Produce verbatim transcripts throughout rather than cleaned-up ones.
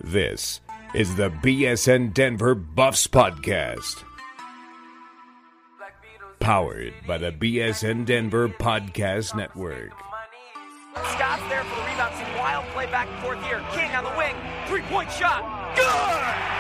This is the B S N Denver Buffs Podcast. Powered by the B S N Denver Podcast Network. Scott's there for the rebound. Some wild play back and forth here. King on the wing. Three-point shot. Good!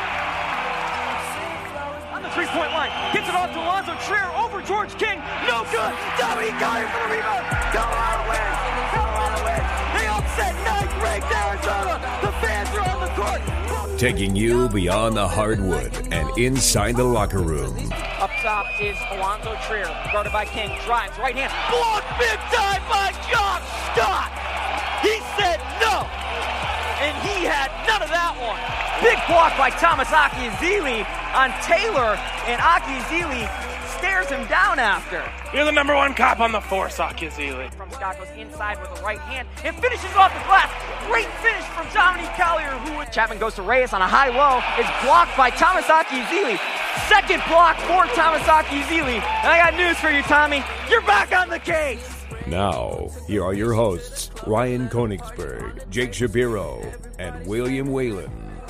On the three-point line. Gets it off to Alonzo Trier over George King. No good. Dominique Collier for the rebound. Colorado wins. Colorado wins. They upset ninth-ranked Arizona. The fans are on the court. Taking you beyond the hardwood and inside the locker room. Up top is Alonzo Trier, guarded by King, drives, right hand, blocked big time by Josh Scott! He said no! And he had none of that one. Big block by Thomas Akiazili on Taylor, and Akiazili stares him down after. You're the number one cop on the force, Akiazili. From Scott goes inside with the right hand and finishes off the glass. Great finish from Dominique Collier, who Chapman goes to Reyes on a high-low, is blocked by Thomas Akiazili. Second block for Thomas Akiazili. And I got news for you, Tommy. You're back on the case. Now, here are your hosts, Ryan Konigsberg, Jake Shapiro, and William Whalen.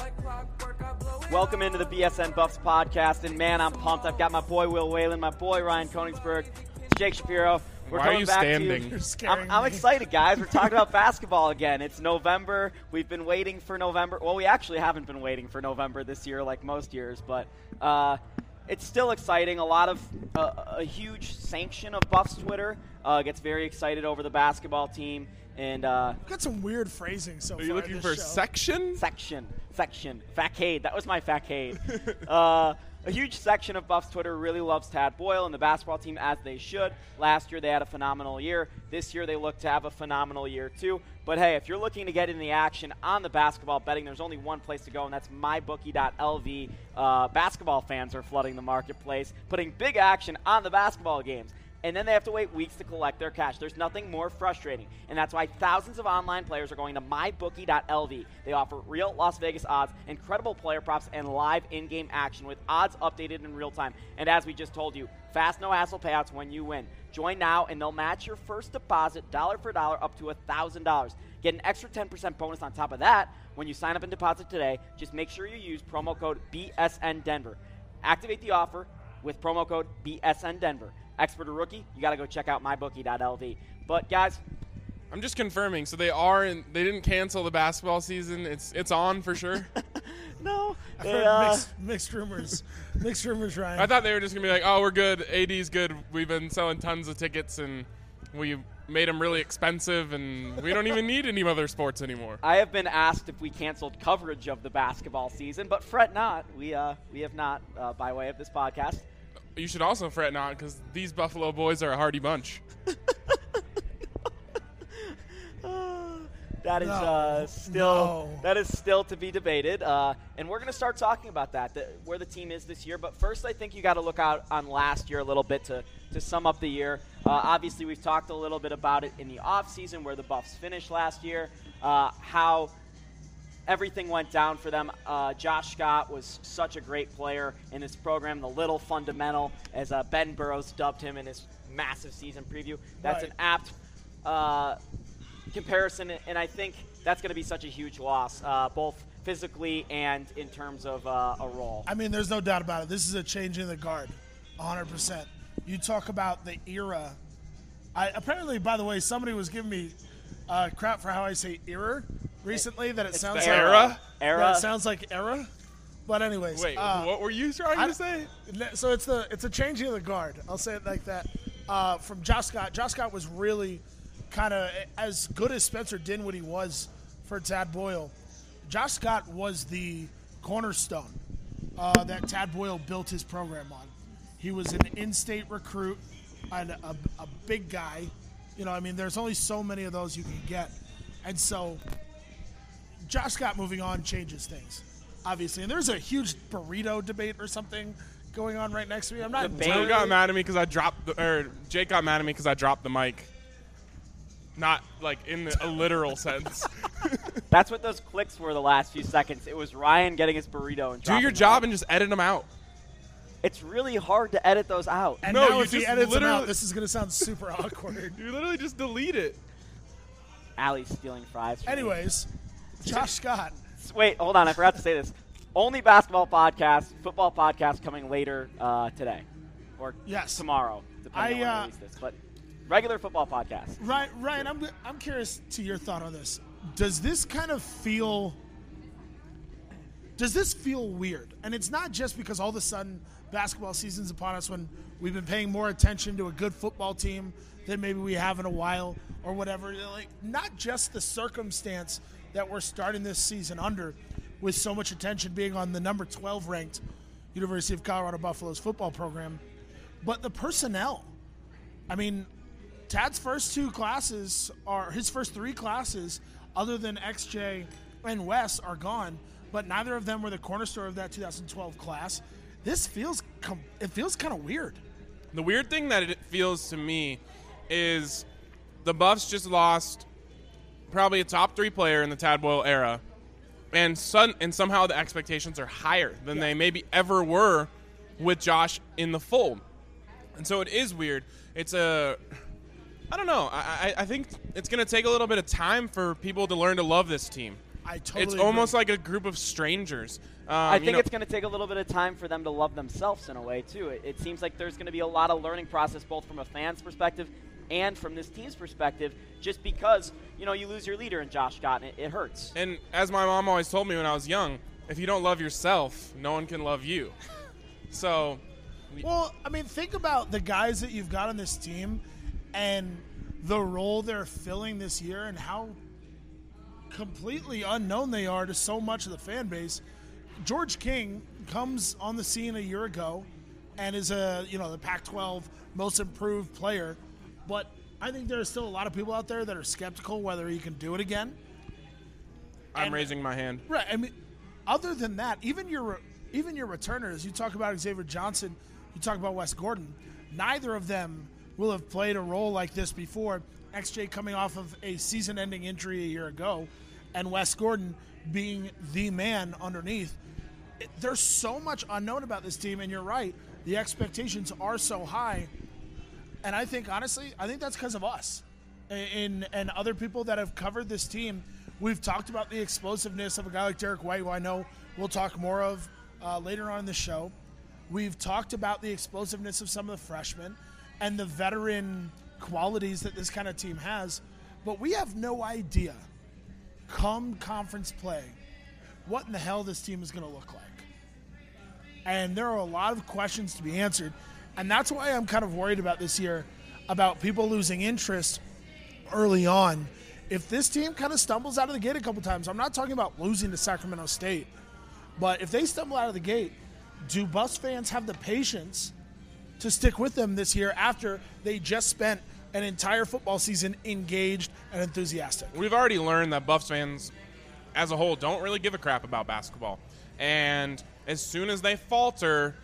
Welcome into the B S N Buffs podcast, and man, I'm pumped. I've got my boy Will Whalen, my boy Ryan Konigsberg, Jake Shapiro. We're Why coming are you back standing? To you. I'm, I'm excited, guys. We're talking about basketball again. It's November. We've been waiting for November. Well, we actually haven't been waiting for November this year like most years, but uh, it's still exciting. A lot of uh, a huge sanction of Buffs Twitter uh, gets very excited over the basketball team. And uh, We've got some weird phrasing so Are far. you looking in for this show. section? Section, section, facade. That was my facade. uh, a huge section of Buffs Twitter really loves Tad Boyle and the basketball team, as they should. Last year they had a phenomenal year. This year they look to have a phenomenal year too. But hey, if you're looking to get in the action on the basketball betting, there's only one place to go, and that's my bookie dot L V. Uh, basketball fans are flooding the marketplace, putting big action on the basketball games. And then they have to wait weeks to collect their cash. There's nothing more frustrating, and that's why thousands of online players are going to my bookie dot L V. They offer real Las Vegas odds, incredible player props, and live in-game action with odds updated in real time. And as we just told you, fast, no-hassle payouts when you win. Join now, and they'll match your first deposit dollar for dollar up to one thousand dollars. Get an extra ten percent bonus on top of that when you sign up and deposit today. Just make sure you use promo code B S N Denver. Activate the offer with promo code B S N Denver. Expert or rookie, you got to go check out my bookie dot L V. But guys, I'm just confirming. So they are, in, they didn't cancel the basketball season. It's it's on for sure. no, I've they, heard uh, mixed, mixed rumors. Mixed rumors, Ryan. I thought they were just gonna be like, oh, we're good. A D's good. We've been selling tons of tickets and we made them really expensive, and we don't even need any other sports anymore. I have been asked if we canceled coverage of the basketball season, but fret not. We uh we have not uh, by way of this podcast. You should also fret not, because these Buffalo boys are a hardy bunch. That is No, uh, still no. that is still to be debated, uh, and we're going to start talking about that, the, where the team is this year. But first, I think you got to look out on last year a little bit to to sum up the year. Uh, obviously, we've talked a little bit about it in the offseason, where the Buffs finished last year, uh, how everything went down for them. Uh, Josh Scott was such a great player in this program, the little fundamental, as uh, Ben Burrows dubbed him in his massive season preview. That's Right. an apt uh, comparison, and I think that's going to be such a huge loss, uh, both physically and in terms of uh, a role. I mean, there's no doubt about it. This is a change in the guard, one hundred percent. You talk about the era. I apparently, by the way, somebody was giving me uh, crap for how I say era recently, that it It's sounds the like era? Era. that it sounds like era. But anyways, Wait, uh, what were you trying I- to say? So it's the it's a changing of the guard. I'll say it like that. Uh, from Josh Scott. Josh Scott was really kind of as good as Spencer Dinwiddie was for Tad Boyle. Josh Scott was the cornerstone uh, that Tad Boyle built his program on. He was an in-state recruit and a, a big guy. You know, I mean, there's only so many of those you can get. And so Josh Scott moving on changes things, obviously. And there's a huge burrito debate or something going on right next to me. I'm not Debate? Joe entirely- got mad at me because I dropped the, or Jake got mad at me because I dropped the mic. Not like in the, a literal sense. That's what those clicks were the last few seconds. It was Ryan getting his burrito and Do dropping your it. job and just edit them out. It's really hard to edit those out. And No, now you if he just edits them literally- out, this is going to sound super awkward. You literally just delete it. Allie's stealing fries from me. Anyways, Josh Scott. Wait, hold on. I forgot to say this. Only basketball podcast, football podcast coming later uh, today or Yes. tomorrow, depending I, on when I uh, release this. But regular football podcast. Ryan, Ryan, I'm I'm curious to your thought on this. Does this kind of feel? Does this feel weird? And it's not just because all of a sudden basketball season's upon us when we've been paying more attention to a good football team than maybe we have in a while or whatever. Like, not just the circumstance that we're starting this season under, with so much attention being on the number twelve ranked University of Colorado Buffaloes football program, but the personnel. I mean, Tad's first two classes are his first three classes, other than X J and Wes, are gone. But neither of them were the cornerstone of that two thousand twelve class. This feels com- it feels kind of weird. The weird thing that it feels to me is the Buffs just lost probably a top three player in the Tad Boyle era, and sun- and somehow the expectations are higher than Yeah. they maybe ever were with Josh in the fold. And so it is weird. It's a, I don't know. I, I, I think it's going to take a little bit of time for people to learn to love this team. I totally It's agree. almost like a group of strangers. Um, I you think know- it's going to take a little bit of time for them to love themselves in a way, too. It, it seems like there's going to be a lot of learning process, both from a fan's perspective and from this team's perspective, just because, you know, you lose your leader in Josh Scott, and it, it hurts. And as my mom always told me when I was young, if you don't love yourself, no one can love you. So, Well, I mean, think about the guys that you've got on this team and the role they're filling this year and how completely unknown they are to so much of the fan base. George King comes on the scene a year ago and is a, you know, the Pac twelve most improved player, but I think there are still a lot of people out there that are skeptical whether he can do it again. I'm And- raising my hand. Right. I mean, other than that, even your even your returners, you talk about Xavier Johnson, you talk about Wes Gordon, neither of them will have played a role like this before. X J coming off of a season-ending injury a year ago, and Wes Gordon being the man underneath. It, there's so much unknown about this team, and you're right. The expectations are so high. And I think, honestly, I think that's because of us and, and other people that have covered this team. We've talked about the explosiveness of a guy like Derek White, who I know we'll talk more of uh, later on in the show. We've talked about the explosiveness of some of the freshmen and the veteran qualities that this kind of team has. But we have no idea, come conference play, what in the hell this team is going to look like. And there are a lot of questions to be answered. And that's why I'm kind of worried about this year, about people losing interest early on. If this team kind of stumbles out of the gate a couple times, I'm not talking about losing to Sacramento State, but if they stumble out of the gate, do Buffs fans have the patience to stick with them this year after they just spent an entire football season engaged and enthusiastic? We've already learned that Buffs fans as a whole don't really give a crap about basketball. And as soon as they falter,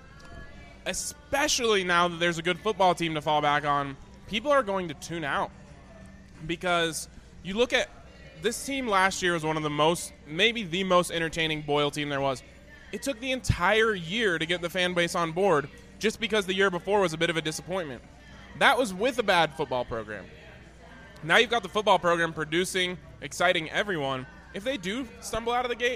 especially now that there's a good football team to fall back on, people are going to tune out. Because you look at this team last year was one of the most, maybe the most entertaining Boyle team there was. It took the entire year to get the fan base on board just because the year before was a bit of a disappointment. That was with a bad football program. Now you've got the football program producing, exciting everyone. If they do stumble out of the gate,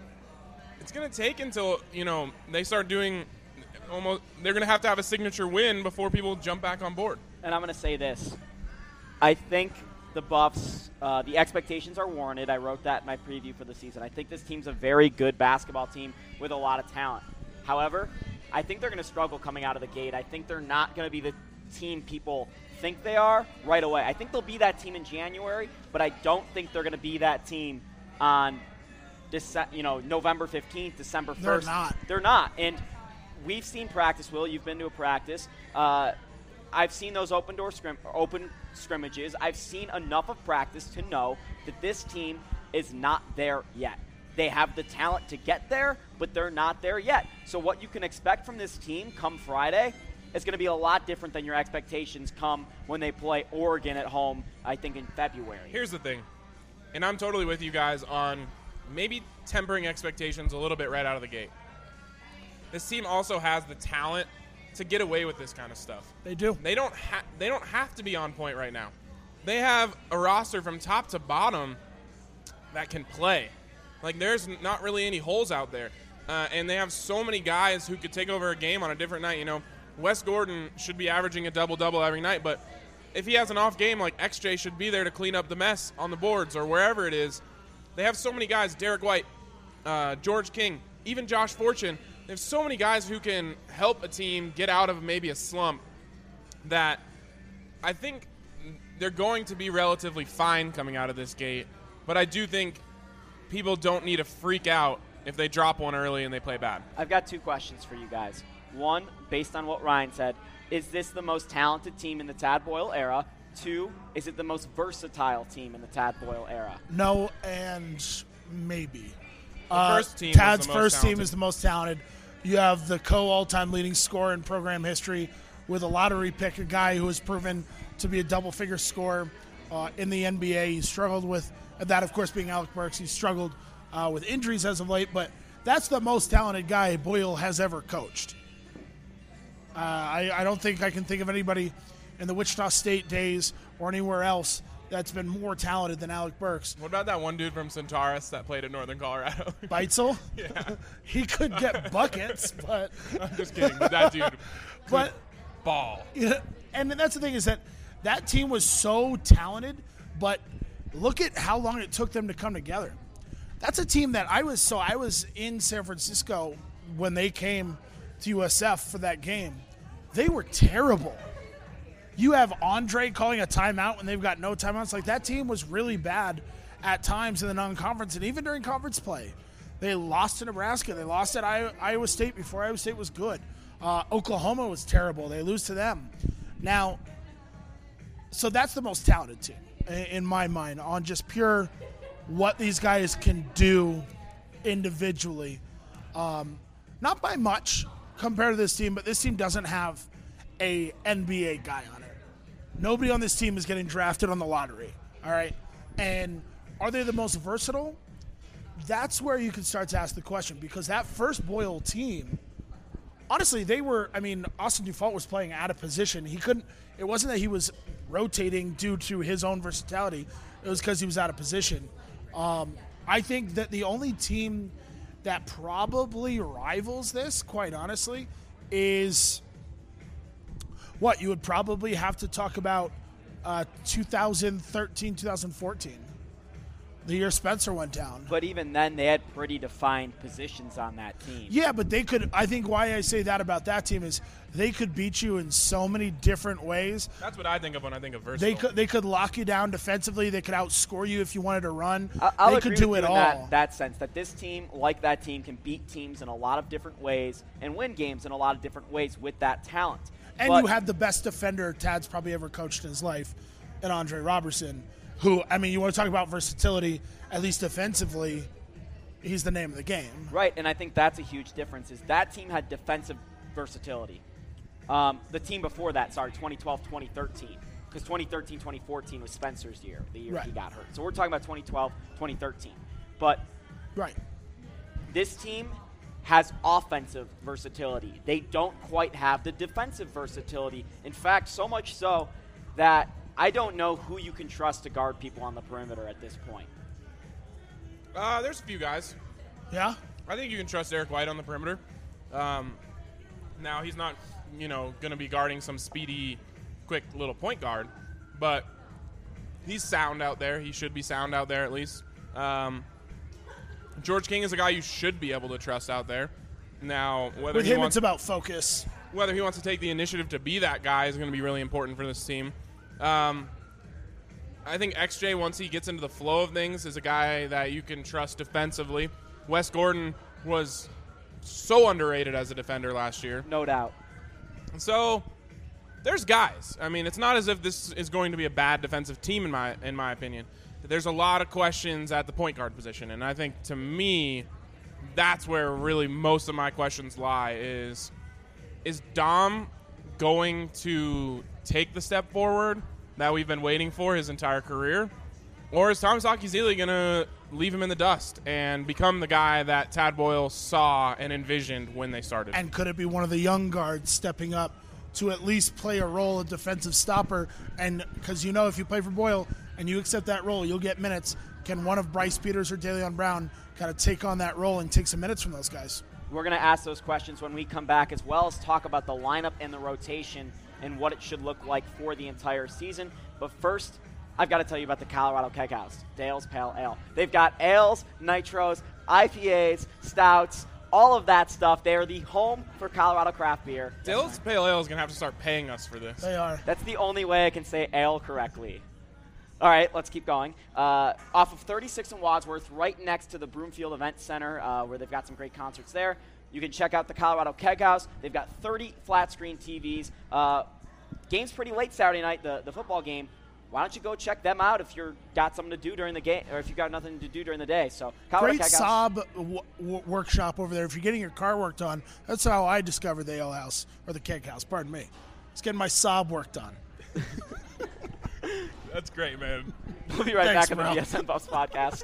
it's going to take until, you know, they start doing almost, they're going to have to have a signature win before people jump back on board. And I'm going to say this. I think the Buffs, uh, the expectations are warranted. I wrote that in my preview for the season. I think this team's a very good basketball team with a lot of talent. However, I think they're going to struggle coming out of the gate. I think they're not going to be the team people think they are right away. I think they'll be that team in January, but I don't think they're going to be that team on Dece- you know, November fifteenth, December first. They're not. They're not. And we've seen practice, Will. You've been to a practice. Uh, I've seen those open door scrim- open scrimmages. I've seen enough of practice to know that this team is not there yet. They have the talent to get there, but they're not there yet. So what you can expect from this team come Friday is going to be a lot different than your expectations come when they play Oregon at home, I think, in February. Here's the thing, and I'm totally with you guys on maybe tempering expectations a little bit right out of the gate. This team also has the talent to get away with this kind of stuff. They do. They don't ha- they don't have to be on point right now. They have a roster from top to bottom that can play. Like, there's not really any holes out there. Uh, and they have so many guys who could take over a game on a different night. You know, Wes Gordon should be averaging a double-double every night, but if he has an off game, like X J should be there to clean up the mess on the boards or wherever it is. They have so many guys, Derek White, uh, George King, even Josh Fortune. They have so many guys who can help a team get out of maybe a slump that I think they're going to be relatively fine coming out of this gate. But I do think people don't need to freak out if they drop one early and they play bad. I've got two questions for you guys. One, based on what Ryan said, is this the most talented team in the Tad Boyle era? Two, is it the most versatile team in the Tad Boyle era? No, and maybe. The Uh, first team Tad's is the most first team talented. is the most talented. You have the co-all-time leading scorer in program history with a lottery pick, a guy who has proven to be a double-figure scorer uh, in the N B A. He struggled with that, of course, being Alec Burks. He struggled uh, with injuries as of late, but that's the most talented guy Boyle has ever coached. Uh, I, I don't think I can think of anybody in the Wichita State days or anywhere else that's been more talented than Alec Burks. What about that one dude from Centaurus that played at Northern Colorado? Beitzel? Yeah. He could get buckets, but I'm just kidding. But that dude could but ball. yeah, and that's the thing is that that team was so talented, but look at how long it took them to come together. That's a team that I was so I was in San Francisco when they came to U S F for that game. They were terrible. You have Andre calling a timeout when they've got no timeouts. Like, that team was really bad at times in the non-conference and even during conference play. They lost to Nebraska. They lost at Iowa State before Iowa State was good. Uh, Oklahoma was terrible. They lose to them. Now, so that's the most talented team in my mind on just pure what these guys can do individually. Um, not by much compared to this team, but this team doesn't have a N B A guy on it. Nobody on this team is getting drafted on the lottery, all right? And are they the most versatile? That's where you can start to ask the question, because that first Boyle team, honestly, they were, I mean, Austin Dufault was playing out of position. He couldn't, it wasn't that he was rotating due to his own versatility. It was because he was out of position. Um, I think that the only team that probably rivals this, quite honestly, is what you would probably have to talk about uh, two thousand thirteen, two thousand fourteen, the year Spencer went down. But even then, they had pretty defined positions on that team. Yeah, but they could, I think why I say that about that team is they could beat you in so many different ways. That's what I think of when I think of versatile. They could they could lock you down defensively. They could outscore you if you wanted to run. I- I'll they agree could do with it you in all. that, that sense, that this team, like that team, can beat teams in a lot of different ways and win games in a lot of different ways with that talent. And But- you had the best defender Tad's probably ever coached in his life, in Andre Robertson, who, I mean, you want to talk about versatility, at least defensively, he's the name of the game. Right, and I think that's a huge difference, is that team had defensive versatility. Um, the team before that, sorry, twenty twelve, twenty thirteen, because twenty thirteen, twenty fourteen was Spencer's year, the year Right. he got hurt. So we're talking about twenty twelve, twenty thirteen. But Right. this team has offensive versatility. They don't quite have the defensive versatility. In fact, so much so that I don't know who you can trust to guard people on the perimeter at this point. Uh, there's a few guys. Yeah? I think you can trust Eric White on the perimeter. Um, now, he's not, you know, going to be guarding some speedy, quick little point guard, but he's sound out there. He should be sound out there at least. Um, George King is a guy you should be able to trust out there. Now, whether With he him, wants it's about focus. whether he wants to take the initiative to be that guy is going to be really important for this team. Um, I think X J, once he gets into the flow of things, is a guy that you can trust defensively. Wes Gordon was so underrated as a defender last year. No doubt. So there's guys. I mean, it's not as if this is going to be a bad defensive team in my in my opinion. There's a lot of questions at the point guard position, and I think to me that's where really most of my questions lie is is Dom going to take the step forward that we've been waiting for his entire career? Or is Thomas Akizili going to leave him in the dust and become the guy that Tad Boyle saw and envisioned when they started? And could it be one of the young guards stepping up to at least play a role of defensive stopper? And because you know if you play for Boyle and you accept that role, you'll get minutes. can one of Bryce Peters or DeLeon Brown kind of take on that role and take some minutes from those guys? We're going to ask those questions when we come back, as well as talk about the lineup and the rotation and what it should look like for the entire season. But first, I've got to tell you about the Colorado Keg House, Dale's Pale Ale. They've got ales, nitros, I P As, stouts, all of that stuff. They are the home for Colorado craft beer. Dale's Pale Ale is going to have to start paying us for this. They are. That's the only way I can say ale correctly. All right, let's keep going. Uh, off of thirty-six in Wadsworth, right next to the Broomfield Event Center, uh, where they've got some great concerts there. You can check out the Colorado Keg House. They've got thirty flat-screen T Vs. Uh, game's pretty late Saturday night, the, the football game. Why don't you go check them out if you've got something to do during the game, or if you've got nothing to do during the day. So Colorado Great Keg House. Saab w- w- workshop over there. If you're getting your car worked on, that's how I discovered the Ale House, or the Keg House, pardon me. It's getting my Saab worked on. That's great, man. We'll be right Thanks, back on bro. the B S N Buffs podcast.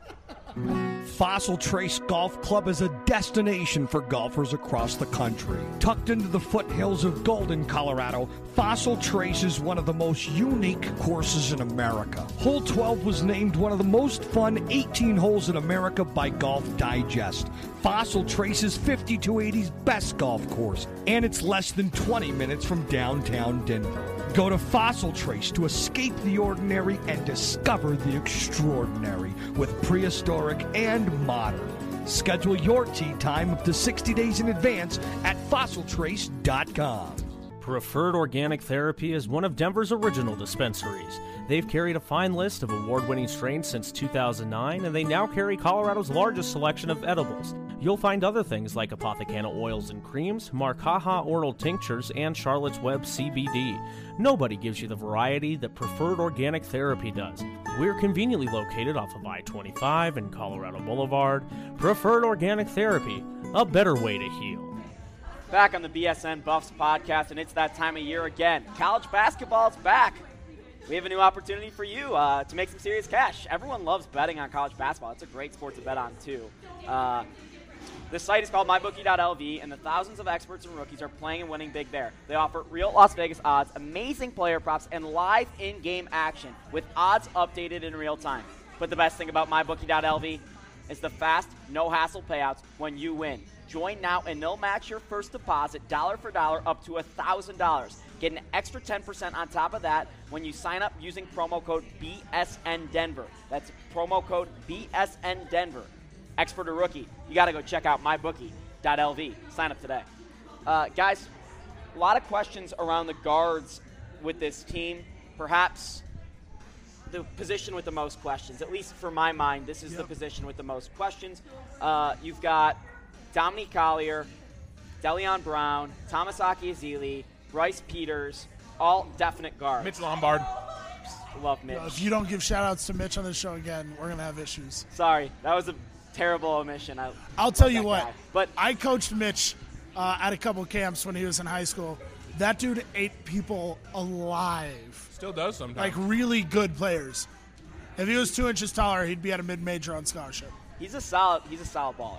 Fossil Trace Golf Club is a destination for golfers across the country. Tucked into the foothills of Golden, Colorado, Fossil Trace is one of the most unique courses in America. Hole twelve was named one of the most fun eighteen holes in America by Golf Digest. Fossil Trace is fifty-two eighty's best golf course, and it's less than twenty minutes from downtown Denver. Go to Fossil Trace to escape the ordinary and discover the extraordinary with prehistoric and modern. Schedule your tee time up to sixty days in advance at fossil trace dot com. Preferred Organic Therapy is one of Denver's original dispensaries. They've carried a fine list of award-winning strains since two thousand nine, and they now carry Colorado's largest selection of edibles. You'll find other things like Apothecana oils and creams, Marcaja oral tinctures, and Charlotte's Web C B D. Nobody gives you the variety that Preferred Organic Therapy does. We're conveniently located off of I twenty-five and Colorado Boulevard. Preferred Organic Therapy, a better way to heal. Back on the B S N Buffs podcast, and it's that time of year again. College basketball is back. We have a new opportunity for you uh, to make some serious cash. Everyone loves betting on college basketball. It's a great sport to bet on, too. Uh, the site is called my bookie dot L V, and the thousands of experts and rookies are playing and winning big there. They offer real Las Vegas odds, amazing player props, and live in-game action with odds updated in real time. But the best thing about my bookie dot L V is the fast, no-hassle payouts when you win. Join now, and they'll match your first deposit dollar for dollar up to one thousand dollars. Get an extra ten percent on top of that when you sign up using promo code B S N Denver. That's promo code B S N Denver. Expert or rookie, you got to go check out my bookie dot L V. Sign up today. Uh, guys, a lot of questions around the guards with this team. Perhaps the position with the most questions. At least for my mind, this is yep. the position with the most questions. Uh, you've got Dominique Collier, DeLeon Brown, Thomas Akiazili, Bryce Peters, all definite guards. Mitch Lombard. Love Mitch. If you don't give shout-outs to Mitch on this show again, we're going to have issues. Sorry. That was a terrible omission. I I'll tell you what. Guy. But I coached Mitch uh, at a couple of camps when he was in high school. That dude ate people alive. Still does sometimes. Like really good players. If he was two inches taller, he'd be at a mid-major on scholarship. He's a solid. He's a solid baller.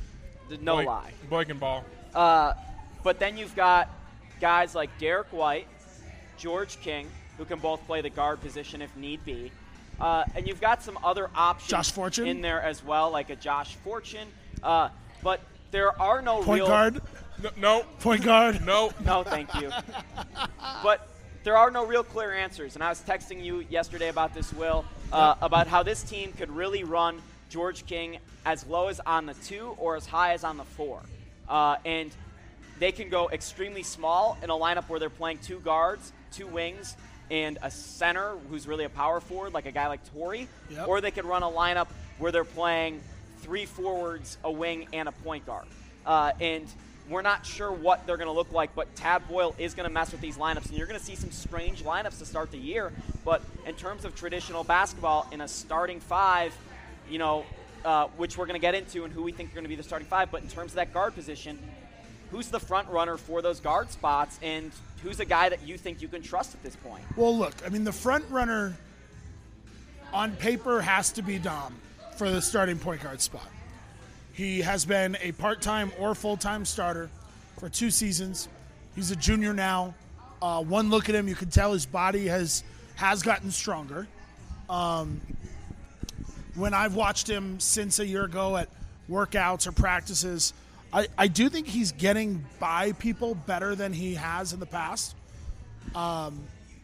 No boy, lie. Boy can ball. Uh, but then you've got guys like Derek White, George King, who can both play the guard position if need be. Uh, and you've got some other options Josh Fortune? in there as well, like a Josh Fortune. Uh, but there are no Point real guard? No. no. Point guard? No. No, thank you. But there are no real clear answers. And I was texting you yesterday about this, Will, uh, about how this team could really run George King as low as on the two or as high as on the four. Uh, and they can go extremely small in a lineup where they're playing two guards, two wings, and a center who's really a power forward, like a guy like Torrey. Yep. Or they could run a lineup where they're playing three forwards, a wing, and a point guard. Uh, and we're not sure what they're going to look like, but Tad Boyle is going to mess with these lineups, and you're going to see some strange lineups to start the year. But in terms of traditional basketball, in a starting five, you know, uh, which we're going to get into and who we think are going to be the starting five, but in terms of that guard position, who's the front runner for those guard spots, and who's a guy that you think you can trust at this point? Well, look, I mean, the front runner on paper has to be Dom for the starting point guard spot. He has been a part-time or full-time starter for two seasons. He's a junior now. Uh, one look at him, you can tell his body has has gotten stronger. Um, when I've watched him since a year ago at workouts or practices, I, I do think he's getting by people better than he has in the past. Um,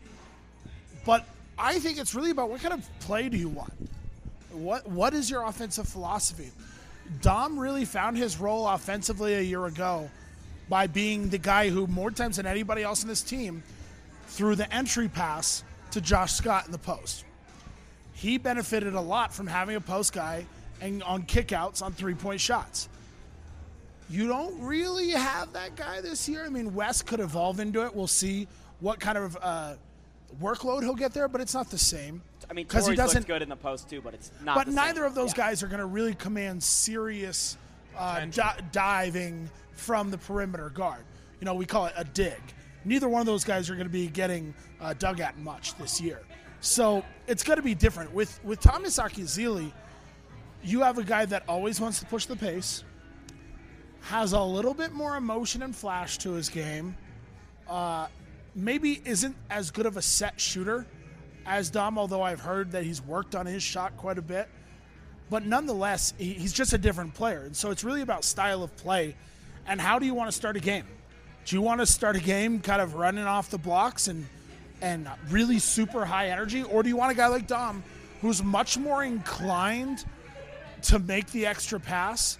but I think it's really about what kind of play do you want? What What is your offensive philosophy? Dom really found his role offensively a year ago by being the guy who, more times than anybody else in this team, threw the entry pass to Josh Scott in the post. He benefited a lot from having a post guy and on kickouts on three-point shots. You don't really have that guy this year. I mean, Wes could evolve into it. We'll see what kind of uh, workload he'll get there, but it's not the same. I mean, because he Torrey's doesn't looks good in the post too, but it's not. But the neither same. of those yeah. guys are going to really command serious uh, di- diving from the perimeter guard. You know, we call it a dig. Neither one of those guys are going to be getting uh, dug at much this year. So it's going to be different. With with Thomas Akizili, you have a guy that always wants to push the pace, has a little bit more emotion and flash to his game, uh, maybe isn't as good of a set shooter as Dom, although I've heard that he's worked on his shot quite a bit. But nonetheless, he, he's just a different player. And so it's really about style of play and how do you want to start a game? Do you want to start a game kind of running off the blocks and and really super high energy? Or do you want a guy like Dom who's much more inclined to make the extra pass?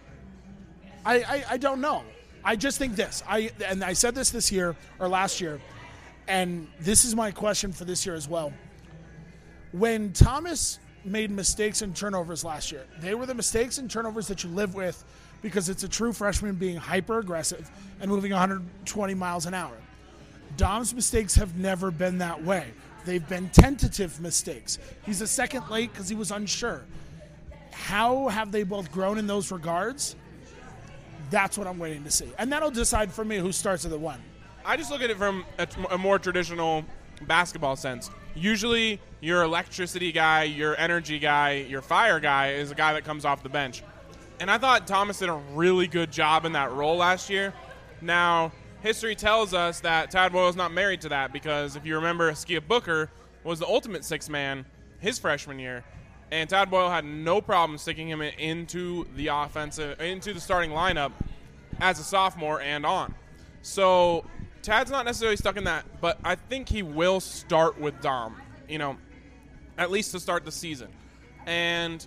I, I, I don't know. I just think this. I and I said this this year or last year, and this is my question for this year as well. When Thomas made mistakes and turnovers last year, they were the mistakes and turnovers that you live with because it's a true freshman being hyper-aggressive and moving one hundred twenty miles an hour. Dom's mistakes have never been that way. They've been tentative mistakes. He's a second late because he was unsure. How have they both grown in those regards? That's what I'm waiting to see. And that'll decide for me who starts at the one. I just look at it from a, a more traditional basketball sense. Usually your electricity guy, your energy guy, your fire guy is a guy that comes off the bench. And I thought Thomas did a really good job in that role last year. Now, history tells us that Tad Boyle's not married to that because if you remember, Skia Booker was the ultimate sixth man his freshman year. And Tad Boyle had no problem sticking him into the offensive, into the starting lineup as a sophomore and on. So Tad's not necessarily stuck in that, but I think he will start with Dom, you know, at least to start the season. And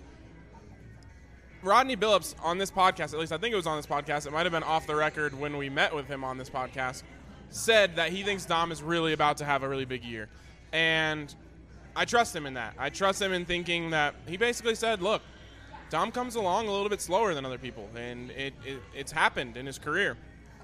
Rodney Billups on this podcast, at least I think it was on this podcast, it might have been off the record when we met with him on this podcast, said that he thinks Dom is really about to have a really big year. And I trust him in that. I trust him in thinking that he basically said, look, Dom comes along a little bit slower than other people, and it, it it's happened in his career.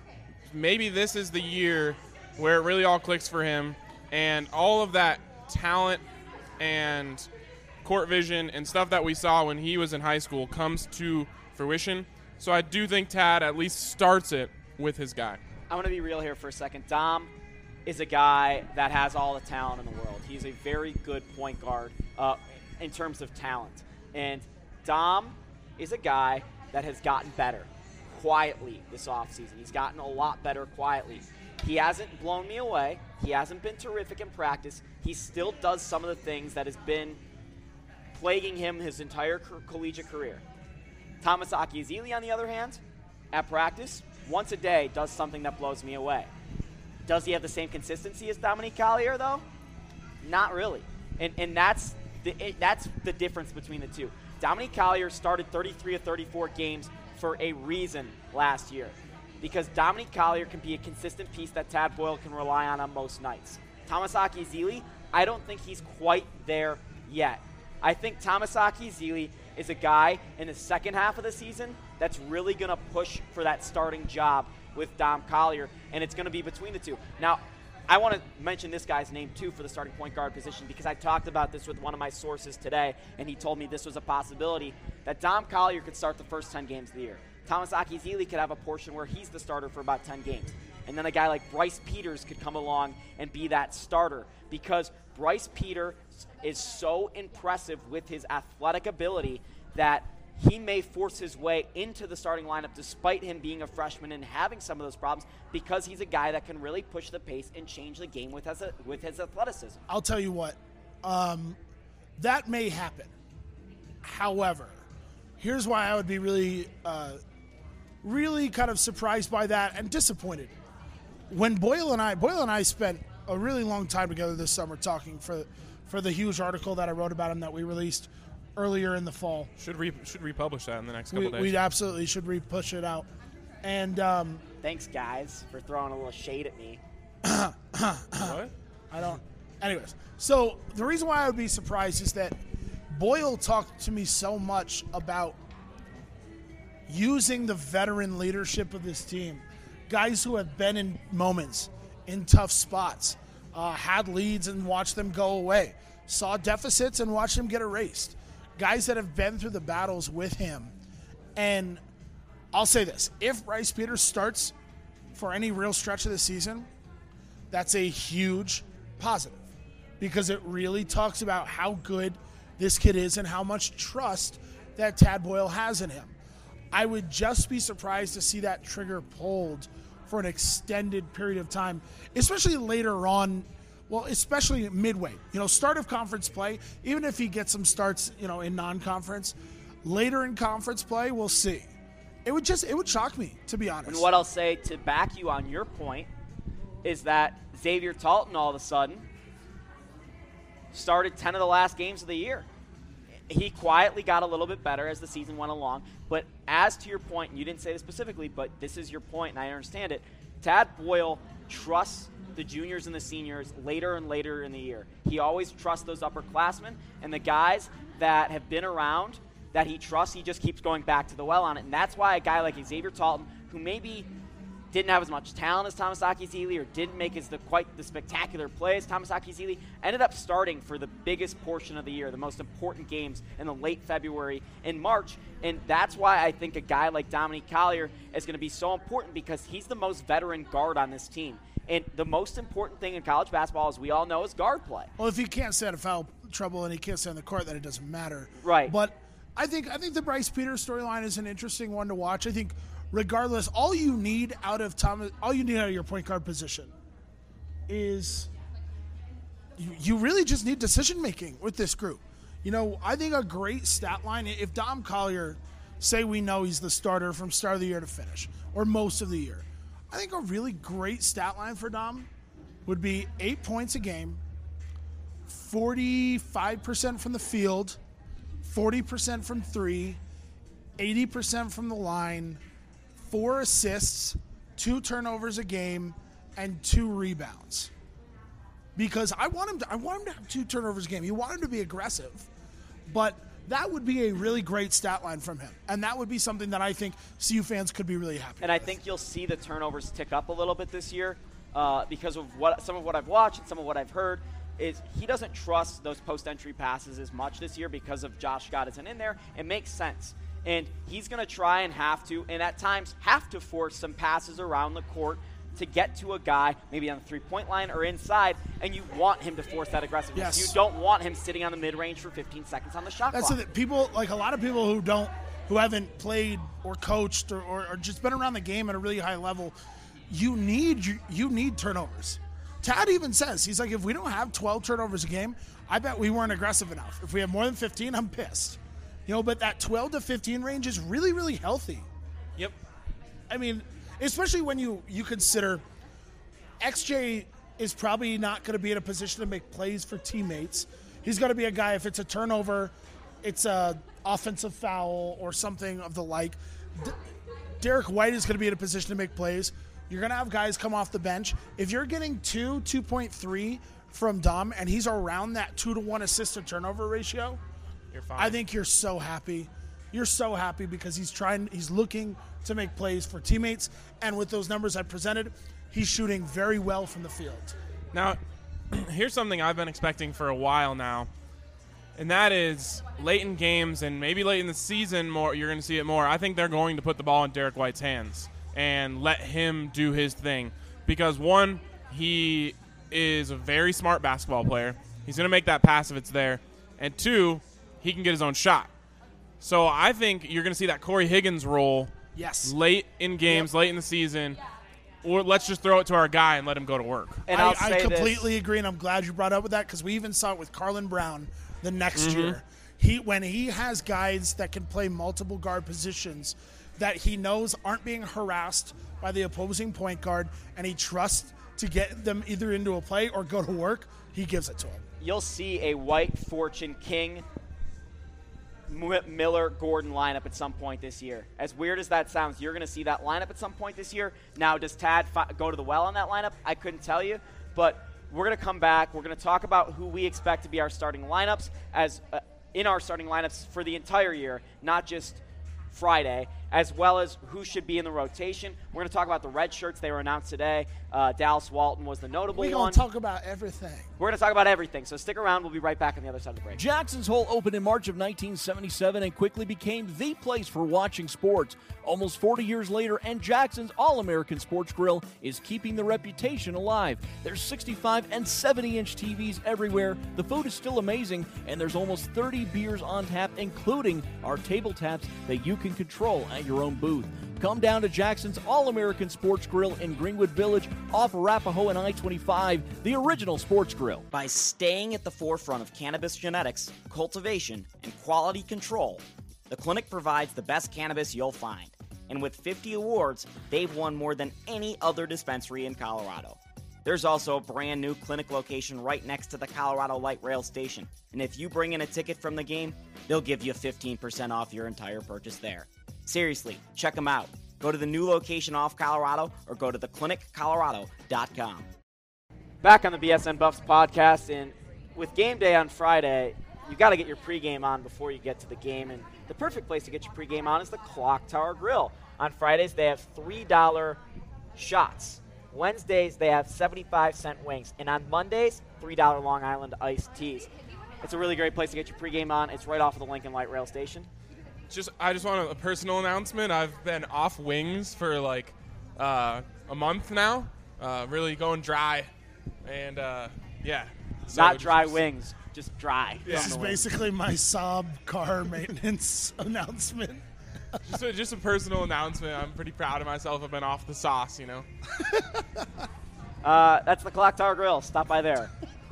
Maybe this is the year where it really all clicks for him, and all of that talent and court vision and stuff that we saw when he was in high school comes to fruition. So I do think Tad at least starts it with his guy. I want to be real here for a second. Dom is a guy that has all the talent in the world. He's a very good point guard uh, in terms of talent. And Dom is a guy that has gotten better quietly this offseason. He's gotten a lot better quietly. He hasn't blown me away. He hasn't been terrific in practice. He still does some of the things that has been plaguing him his entire co- collegiate career. Thomas Akizili, on the other hand, at practice, once a day does something that blows me away. Does he have the same consistency as Dominique Collier, though? Not really. And and that's the it, that's the difference between the two. Dominique Collier started thirty-three of thirty-four games for a reason last year, because Dominique Collier can be a consistent piece that Tad Boyle can rely on on most nights. Thomas Akizili, I don't think he's quite there yet. I think Thomas Akizili is a guy in the second half of the season that's really going to push for that starting job with Dom Collier, and it's going to be between the two. Now, I want to mention this guy's name, too, for the starting point guard position, because I talked about this with one of my sources today, and he told me this was a possibility, that Dom Collier could start the first ten games of the year. Thomas Akizili could have a portion where he's the starter for about ten games. And then a guy like Bryce Peters could come along and be that starter, because Bryce Peters is so impressive with his athletic ability that he may force his way into the starting lineup despite him being a freshman and having some of those problems, because he's a guy that can really push the pace and change the game with his, with his athleticism. I'll tell you what, um, that may happen. However, here's why I would be really, uh, really kind of surprised by that and disappointed. When Boyle and I, Boyle and I spent a really long time together this summer talking for for the huge article that I wrote about him that we released earlier in the fall. Should re- should republish that in the next couple we, days. We absolutely should re-push it out. And um, Thanks, guys, for throwing a little shade at me. What? I don't. Anyways, so the reason why I would be surprised is that Boyle talked to me so much about using the veteran leadership of this team, guys who have been in moments, in tough spots, uh, had leads and watched them go away, saw deficits and watched them get erased, guys that have been through the battles with him. And I'll say this, if Bryce Peters starts for any real stretch of the season, that's a huge positive because it really talks about how good this kid is and how much trust that Tad Boyle has in him. I would just be surprised to see that trigger pulled for an extended period of time, especially later on, well, especially midway. You know, start of conference play, even if he gets some starts, you know, in non-conference, later in conference play, we'll see. It would just, it would shock me, to be honest. And what I'll say to back you on your point is that Xavier Talton all of a sudden started ten of the last games of the year. He quietly got a little bit better as the season went along. But as to your point, and you didn't say this specifically, but this is your point, and I understand it, Tad Boyle trusts the juniors and the seniors later and later in the year. He always trusts those upperclassmen, and the guys that have been around that he trusts, he just keeps going back to the well on it. And that's why a guy like Xavier Talton, who maybe didn't have as much talent as Tomasaki Zeile or didn't make as the, quite the spectacular play as Tomasaki Zeile, ended up starting for the biggest portion of the year, the most important games in the late February and March. And that's why I think a guy like Dominique Collier is going to be so important because he's the most veteran guard on this team. And the most important thing in college basketball, as we all know, is guard play. Well, if he can't stay out of foul trouble and he can't stay on the court, then it doesn't matter. Right. But I think I think the Bryce Peters storyline is an interesting one to watch. I think regardless, all you need out of Thomas, all you need out of your point guard position is you, you really just need decision making with this group. You know, I think a great stat line, if Dom Collier, say we know he's the starter from start of the year to finish, or most of the year, I think a really great stat line for Dom would be eight points a game, forty-five percent from the field, forty percent from three, eighty percent from the line, four assists, two turnovers a game, and two rebounds. Because I want him to, I want him to have two turnovers a game. You want him to be aggressive, but that would be a really great stat line from him, and that would be something that I think C U fans could be really happy. And with. I think you'll see the turnovers tick up a little bit this year uh, because of what some of what I've watched and some of what I've heard. Is he doesn't trust those post-entry passes as much this year because of Josh Scott isn't in there. It makes sense. And he's going to try and have to, and at times have to force some passes around the court to get to a guy, maybe on the three-point line or inside, and you want him to force that aggressiveness. Yes. You don't want him sitting on the mid-range for fifteen seconds on the shot That's clock. the people, like a lot of people who don't, who haven't played or coached or, or, or just been around the game at a really high level, you need you, you need turnovers. Tad even says, he's like, if we don't have twelve turnovers a game, I bet we weren't aggressive enough. If we have more than fifteen, I'm pissed. You know, but that twelve to fifteen range is really, really healthy. Yep. I mean, especially when you, you consider X J is probably not going to be in a position to make plays for teammates. He's going to be a guy, if it's a turnover, it's a offensive foul or something of the like. D- Derek White is going to be in a position to make plays. You're going to have guys come off the bench. If you're getting two, two point three from Dom, and he's around that two to one assist to turnover ratio, You're fine. I think you're so happy. You're so happy because he's trying, he's looking to make plays for teammates. And with those numbers I presented, he's shooting very well from the field. Now, here's something I've been expecting for a while now, and that is late in games and maybe late in the season more, you're going to see it more. I think they're going to put the ball in Derek White's hands and let him do his thing because, one, he is a very smart basketball player. He's going to make that pass if it's there. And, two, he can get his own shot. So I think you're going to see that Corey Higgins role Yes. late in games, Yep. late in the season, or let's just throw it to our guy and let him go to work. And I, I'll I say completely this. agree, and I'm glad you brought up with that because we even saw it with Carlin Brown the next Mm-hmm. year. He when he has guys that can play multiple guard positions that he knows aren't being harassed by the opposing point guard, and he trusts to get them either into a play or go to work, he gives it to him. You'll see a White, Fortune, King, Miller, Gordon lineup at some point this year. As weird as that sounds, you're going to see that lineup at some point this year. Now, does Tad fi- go to the well on that lineup? I couldn't tell you, but we're going to come back. We're going to talk about who we expect to be our starting lineups as uh, in our starting lineups for the entire year, not just Friday, as well as who should be in the rotation. We're going to talk about the red shirts. They were announced today. Uh, Dallas Walton was the notable We're one. going to talk about everything. We're going to talk about everything, so stick around. We'll be right back on the other side of the break. Jackson's Hole opened in March of nineteen seventy-seven and quickly became the place for watching sports. Almost forty years later, and Jackson's All-American Sports Grill is keeping the reputation alive. There's sixty-five and seventy-inch T Vs everywhere, the food is still amazing, and there's almost thirty beers on tap, including our table taps that you can control at your own booth. Come down to Jackson's All-American Sports Grill in Greenwood Village off Arapahoe and I twenty-five, the original sports grill. By staying at the forefront of cannabis genetics, cultivation, and quality control, the clinic provides the best cannabis you'll find. And with fifty awards, they've won more than any other dispensary in Colorado. There's also a brand new clinic location right next to the Colorado Light Rail Station. And if you bring in a ticket from the game, they'll give you fifteen percent off your entire purchase there. Seriously, check them out. Go to the new location off Colorado or go to the clinic colorado dot com. Back on the B S N Buffs podcast, and with game day on Friday, you got to get your pregame on before you get to the game, and the perfect place to get your pregame on is the Clock Tower Grill. On Fridays, they have three dollar shots. Wednesdays, they have seventy-five cent wings, and on Mondays, three dollar Long Island iced teas. It's a really great place to get your pregame on. It's right off of the Lincoln Light Rail Station. Just, I just want a, a personal announcement. I've been off wings for like uh, a month now, uh, really going dry, and uh, yeah. So Not dry just, wings, just dry. Yeah. This is basically my Saab car maintenance announcement. Just a, just a personal announcement. I'm pretty proud of myself. I've been off the sauce, you know. Uh, that's the Clock Tower Grill. Stop by there.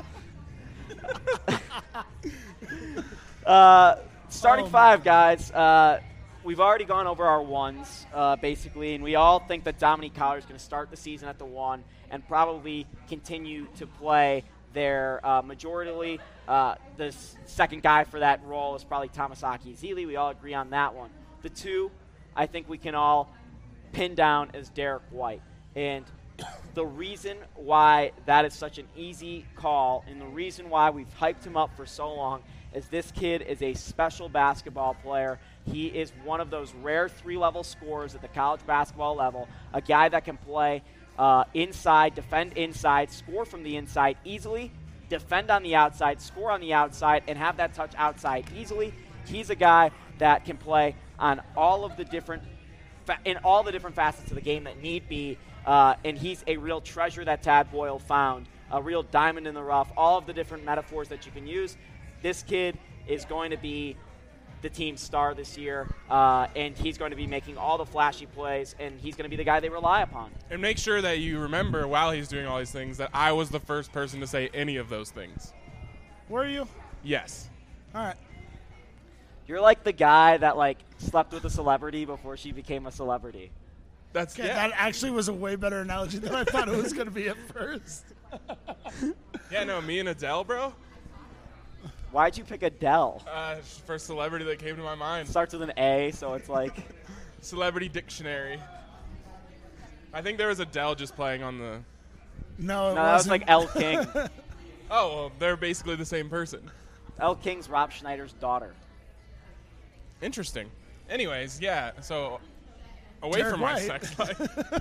uh, starting Oh, five, guys. Uh, we've already gone over our ones, uh, basically, and we all think that Dominique Collier is going to start the season at the one and probably continue to play there uh, majority. Uh, the s- second guy for that role is probably Tomasaki Ezeli. We all agree on that one. The two, I think we can all pin down as Derek White. And the reason why that is such an easy call and the reason why we've hyped him up for so long is this kid is a special basketball player. He is one of those rare three-level scorers at the college basketball level, a guy that can play uh, inside, defend inside, score from the inside easily, defend on the outside, score on the outside, and have that touch outside easily. He's a guy that can play on all of the different fa- in all the different facets of the game that need be. Uh, and he's a real treasure that Tad Boyle found, a real diamond in the rough, all of the different metaphors that you can use. This kid is going to be the team star this year, uh, and he's going to be making all the flashy plays, and he's going to be the guy they rely upon. And make sure that you remember while he's doing all these things that I was the first person to say any of those things. Were you? Yes. All right. You're like the guy that, like, slept with a celebrity before she became a celebrity. That's Okay, yeah. that actually was a way better analogy than I thought it was going to be at first. Yeah, no, me and Adele, bro. Why'd you pick Adele? Uh, first celebrity that came to my mind. Starts with an A, so it's like Celebrity dictionary. I think there was Adele just playing on the. No, it no, that was wasn't. like Elle King. Oh, well, they're basically the same person. Elle King's Rob Schneider's daughter. Interesting. Anyways, yeah. So away Derek from my White. sex life.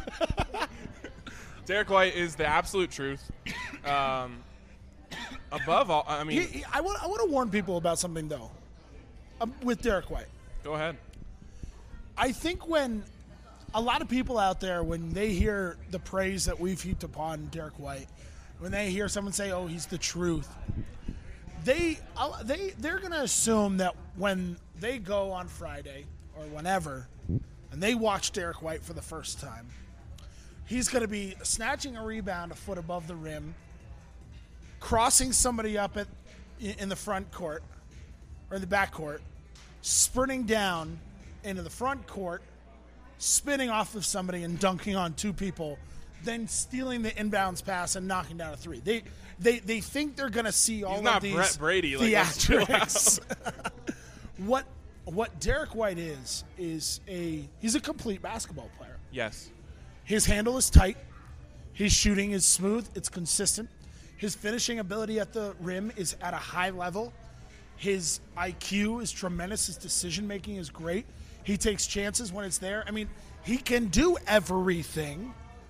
Derek White is the absolute truth. Um, above all, I mean, He- he- I want I want to warn people about something though. Um, with Derek White, go ahead. I think when a lot of people out there, when they hear the praise that we've heaped upon Derek White, when they hear someone say, "Oh, he's the truth," they uh, they they're gonna assume that when they go on Friday or whenever, and they watch Derek White for the first time, he's gonna be snatching a rebound a foot above the rim, crossing somebody up at in the front court, or in the back court, sprinting down into the front court, spinning off of somebody and dunking on two people, then stealing the inbounds pass and knocking down a three. They they they think they're going to see all He's of not these Brett Brady, like, theatrics. what what Derek White is is a he's a complete basketball player. Yes. His handle is tight. His shooting is smooth. It's consistent. His finishing ability at the rim is at a high level. His I Q is tremendous. His decision-making is great. He takes chances when it's there. I mean, he can do everything.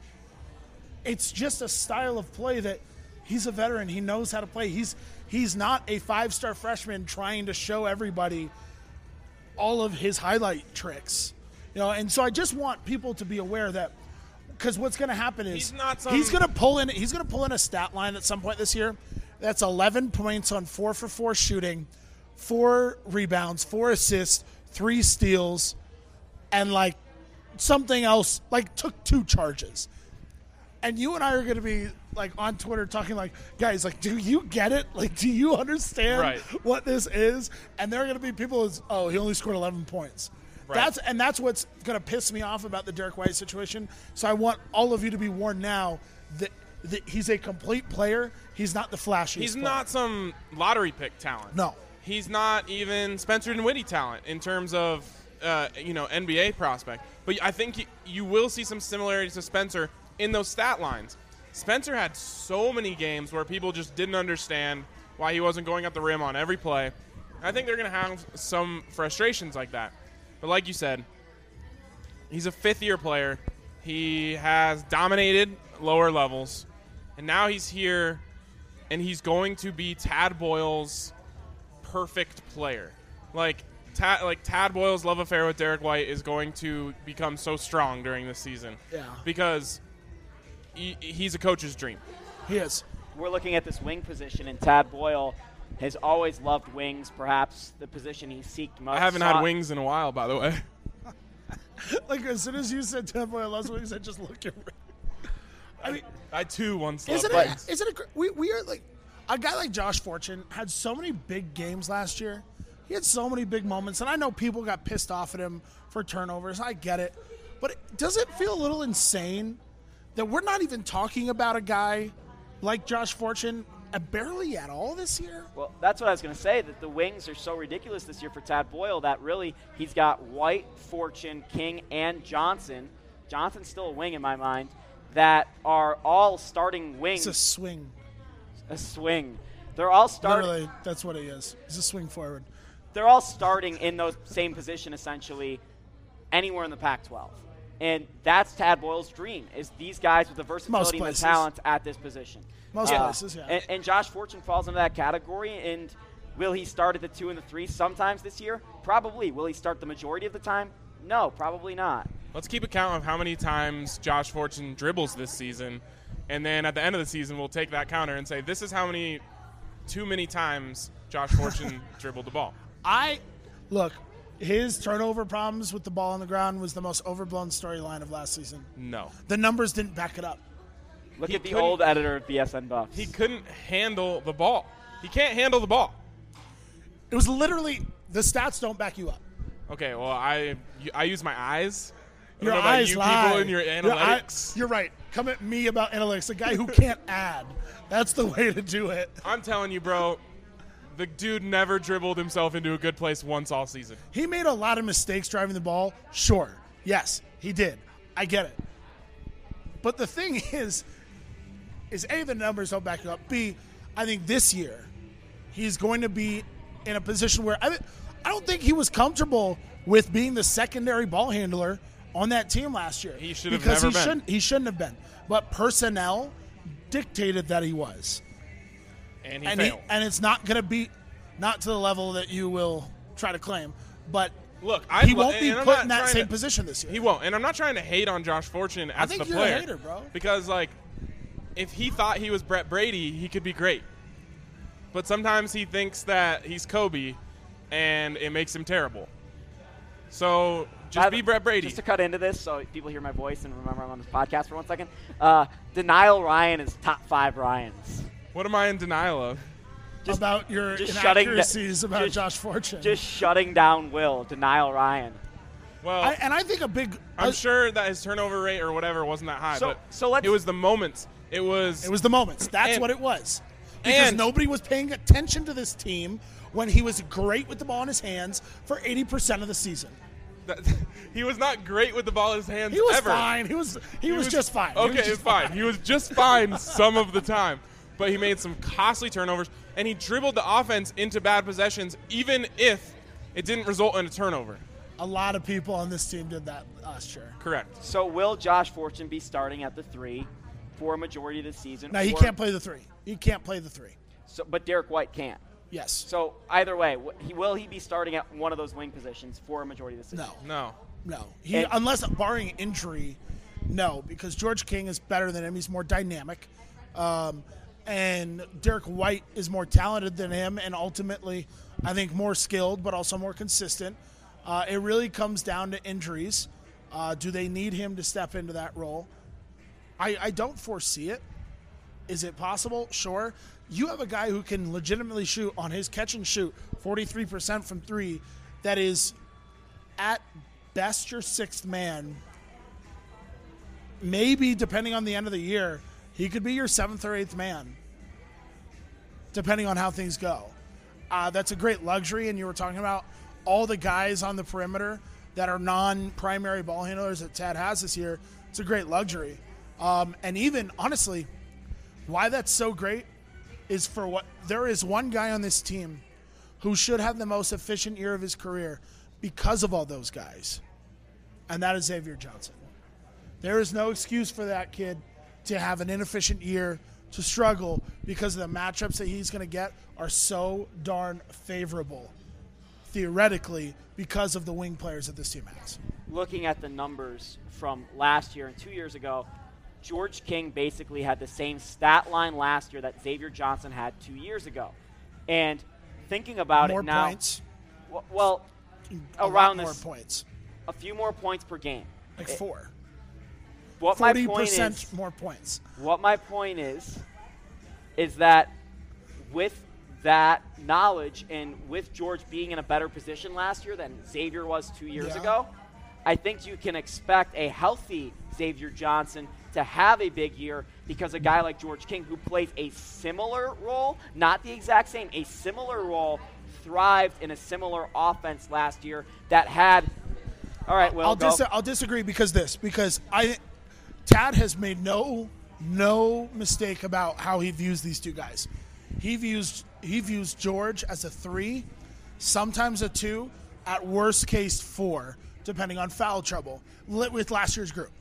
It's just a style of play that he's a veteran. He knows how to play. He's he's not a five-star freshman trying to show everybody all of his highlight tricks. You know, and so I just want people to be aware that because what's going to happen is He's not some- he's going to pull in he's going to pull in a stat line at some point this year that's eleven points on four for four shooting, four rebounds, four assists, three steals, and like something else, like took two charges. And you and I are going to be like on Twitter talking like, guys, like, do you get it? Like, do you understand Right. what this is? And there are going to be people who's, oh, he only scored eleven points. Right. That's and that's what's going to piss me off about the Derek White situation. So I want all of you to be warned now that, that he's a complete player. He's not the flashiest He's player. not some lottery pick talent. No. He's not even Spencer Dinwiddie talent in terms of, uh, you know, N B A prospect. But I think you, you will see some similarities to Spencer in those stat lines. Spencer had so many games where people just didn't understand why he wasn't going at the rim on every play. I think they're going to have some frustrations like that. But like you said, he's a fifth-year player. He has dominated lower levels. And now he's here, and he's going to be Tad Boyle's perfect player. Like, Tad, like Tad Boyle's love affair with Derek White is going to become so strong during this season. Yeah. Because he, he's a coach's dream. He is. We're looking at this wing position, and Tad Boyle has always loved wings, perhaps the position he seeked most. I haven't Sought- had wings in a while, by the way. Like, as soon as you said Tad Boyle loves wings, I just looked at I mean, I, too, once loved Isn't wings. it? Isn't it? gr- We we are like a guy like Josh Fortune had so many big games last year. He had so many big moments, and I know people got pissed off at him for turnovers. I get it, but it, does it feel a little insane that we're not even talking about a guy like Josh Fortune uh, barely at all this year? Well, that's what I was going to say, that the wings are so ridiculous this year for Tad Boyle that really he's got White, Fortune, King, and Johnson. Johnson's still a wing in my mind, that are all starting wings. It's a swing. A swing. They're all starting. Literally, that's what he is. He's a swing forward. They're all starting in those same position essentially anywhere in the Pac twelve. And that's Tad Boyle's dream, is these guys with the versatility and the places. talent at this position. Most Uh, places, yeah. And, and Josh Fortune falls into that category. And will he start at the two and the three sometimes this year? Probably. Will he start the majority of the time? No, probably not. Let's keep account of how many times Josh Fortune dribbles this season, and then at the end of the season, we'll take that counter and say, this is how many, too many times Josh Fortune dribbled the ball. I look, his turnover problems with the ball on the ground was the most overblown storyline of last season. No. The numbers didn't back it up. Look He at the couldn't- old editor of B S N Buffs. He couldn't handle the ball. He can't handle the ball. It was literally the stats don't back you up. Okay, well, I I use my eyes. I don't Your know about eyes you lie. people and your eye- analytics. you're right. Come at me about analytics. A guy who can't add. That's the way to do it. I'm telling you, bro, the dude never dribbled himself into a good place once all season. He made a lot of mistakes driving the ball. Sure. Yes, he did. I get it. But the thing is, is A, the numbers don't back you up. B, I think this year he's going to be in a position where I, I don't think he was comfortable with being the secondary ball handler on that team last year. He should have because never he been. Shouldn't, he shouldn't have been. But personnel dictated that he was. And he and failed. and it's not going to be, not to the level that you will try to claim, but Look, I he lo- won't be and I'm put not in that trying same to- position this year. He won't. And I'm not trying to hate on Josh Fortune as think the you're a player. hater, bro. Because, like, if he thought he was Brett Brady, he could be great. But sometimes he thinks that he's Kobe, and it makes him terrible. So just By be the- Brett Brady. Just to cut into this so people hear my voice and remember I'm on this podcast for one second. Uh, Denial Ryan is top five Ryans. What am I in denial of? Just, about your just shutting inaccuracies da- about just, Josh Fortune. Just shutting down Will, denial Ryan. Well, I, and I think a big. I'm uh, sure that his turnover rate or whatever wasn't that high, So- but so let's- it was the moments. It was It was the moments. That's And- what it was. Because and- nobody was paying attention to this team when he was great with the ball in his hands for eighty percent of the season. that, he was not great with the ball in his hands He was ever. fine. He was he, was, just fine. He Okay, was just fine. He was just fine some of the time, but he made some costly turnovers, and he dribbled the offense into bad possessions, even if it didn't result in a turnover. A lot of people on this team did that last year. Correct. So will Josh Fortune be starting at the three for a majority of the season? Now he or- can't play the three. He can't play the three. So, but Derek White can. Yes. So either way, wh- he, will he be starting at one of those wing positions for a majority of the season? No. No. No. He And- unless barring injury, no, because George King is better than him. He's more dynamic. Um, and Derek White is more talented than him and ultimately I think more skilled but also more consistent. Uh, it really comes down to injuries. Uh, do they need him to step into that role? I, I don't foresee it. Is it possible? Sure. You have a guy who can legitimately shoot on his catch and shoot forty-three percent from three that is at best your sixth man. Maybe, depending on the end of the year, he could be your seventh or eighth man, depending on how things go. Uh, that's a great luxury, and you were talking about all the guys on the perimeter that are non-primary ball handlers that Tad has this year. It's a great luxury. Um, and even, honestly, why that's so great is for what there is one guy on this team who should have the most efficient year of his career because of all those guys, and that is Xavier Johnson. There is no excuse for that kid to have an inefficient year, to struggle, because the matchups that he's going to get are so darn favorable, theoretically, because of the wing players that this team has. Looking at the numbers from last year and two years ago, George King basically had the same stat line last year that Xavier Johnson had two years ago. And thinking about More it now, points. w- well, A lot around more this, points. a few more points per game. Like It- four. What my forty point percent is, more points. what my point is, is that with that knowledge and with George being in a better position last year than Xavier was two years Yeah. ago, I think you can expect a healthy Xavier Johnson to have a big year, because a guy like George King, who plays a similar role, not the exact same, a similar role, thrived in a similar offense last year that had. All right, well, I'll, go. dis- I'll disagree because this because I Tad has made no no mistake about how he views these two guys. He views he views George as a three, sometimes a two, at worst case four, depending on foul trouble. Lit with last year's group.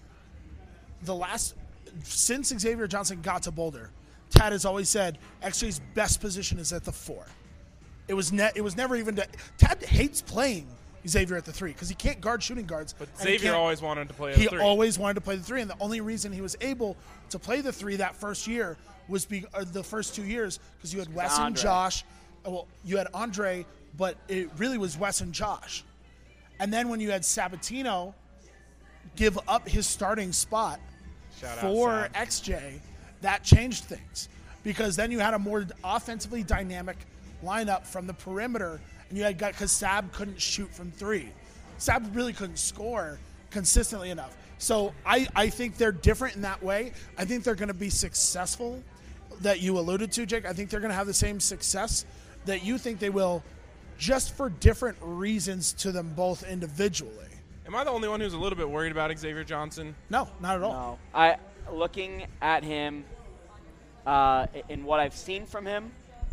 The last since Xavier Johnson got to Boulder, Tad has always said X J's best position is at the four. It was ne- it was never even to, Tad hates playing Xavier at the three because he can't guard shooting guards. But and he Xavier can't- always wanted to play a He three. always wanted to play the three, and the only reason he was able to play the three that first year was be, uh, the first two years because you had Wes and Andre. Josh. uh, Well, you had Andre, but it really was Wes and Josh. And then when you had Sabatino give up his starting spot Shout out, for Sab. X J, that changed things because then you had a more offensively dynamic lineup from the perimeter, and you had got because Sab couldn't shoot from three. Sab really couldn't score consistently enough. So I, I think they're different in that way. I think they're going to be successful that you alluded to, Jake. I think they're going to have the same success that you think they will, just for different reasons to them both individually. Am I the only one who's a little bit worried about Xavier Johnson? No, not at all. No, I looking at him uh, in what I've seen from him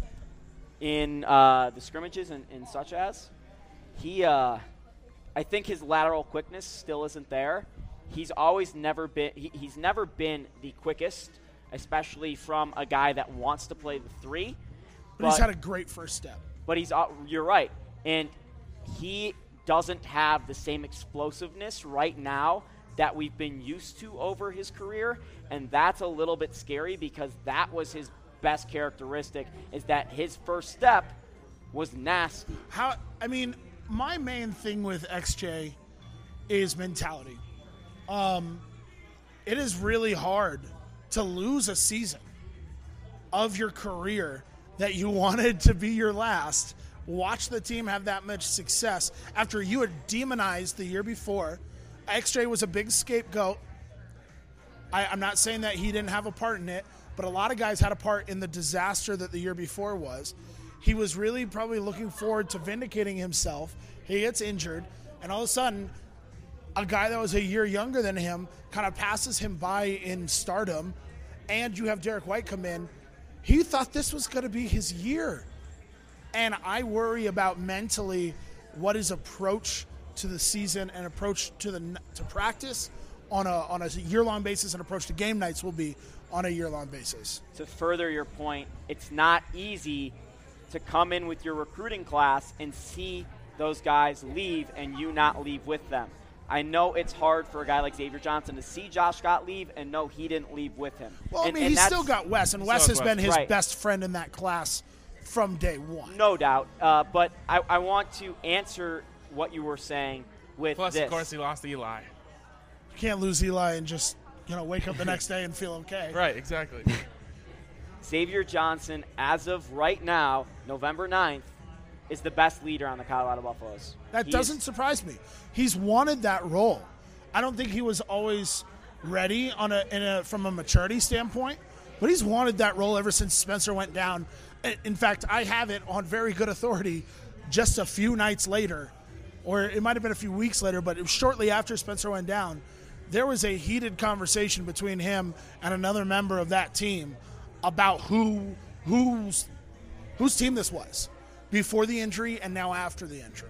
in uh, the scrimmages and, and such as he, uh, I think his lateral quickness still isn't there. He's always never been. He, he's never been the quickest, especially from a guy that wants to play the three. But, he's had a great first step. But he's uh, you're right, and he doesn't have the same explosiveness right now that we've been used to over his career, and that's a little bit scary because that was his best characteristic, is that his first step was nasty. How? I mean, my main thing with X J is mentality. Um, it is really hard to lose a season of your career that you wanted to be your last, watch the team have that much success after you had demonized the year before. X J was a big scapegoat. I, I'm not saying that he didn't have a part in it, but a lot of guys had a part in the disaster that the year before was. He was really probably looking forward to vindicating himself. He gets injured, and all of a sudden, a guy that was a year younger than him kind of passes him by in stardom, and you have Derek White come in. He thought this was going to be his year. And I worry about mentally what his approach to the season and approach to the to practice on a on a year-long basis and approach to game nights will be on a year-long basis. To further your point, it's not easy to come in with your recruiting class and see those guys leave and you not leave with them. I know it's hard for a guy like Xavier Johnson to see Josh Scott leave and know he didn't leave with him. Well, and, I mean, and he's still got Wes, and Wes has Wes. been his Right. best friend in that class from day one. No doubt. Uh, but I, I want to answer what you were saying with Plus, this. of course, he lost Eli. You can't lose Eli and just, you know, wake up the next day and feel okay. Right, exactly. Xavier Johnson, as of right now, November ninth, is the best leader on the Colorado Buffaloes. That He doesn't is- surprise me. He's wanted that role. I don't think he was always ready on a, in a from a maturity standpoint, but he's wanted that role ever since Spencer went down. In- In fact, I have it on very good authority just a few nights later, or it might have been a few weeks later, but it was shortly after Spencer went down, there was a heated conversation between him and another member of that team about who whose whose team this was before the injury and now after the injury.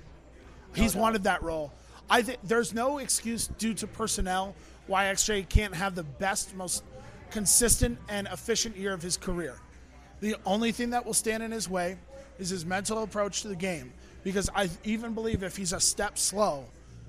He's wanted that role. I think there's no excuse due to personnel why X J can't have the best, most consistent and efficient year of his career. The only thing that will stand in his way is his mental approach to the game, because I even believe if he's a step slow,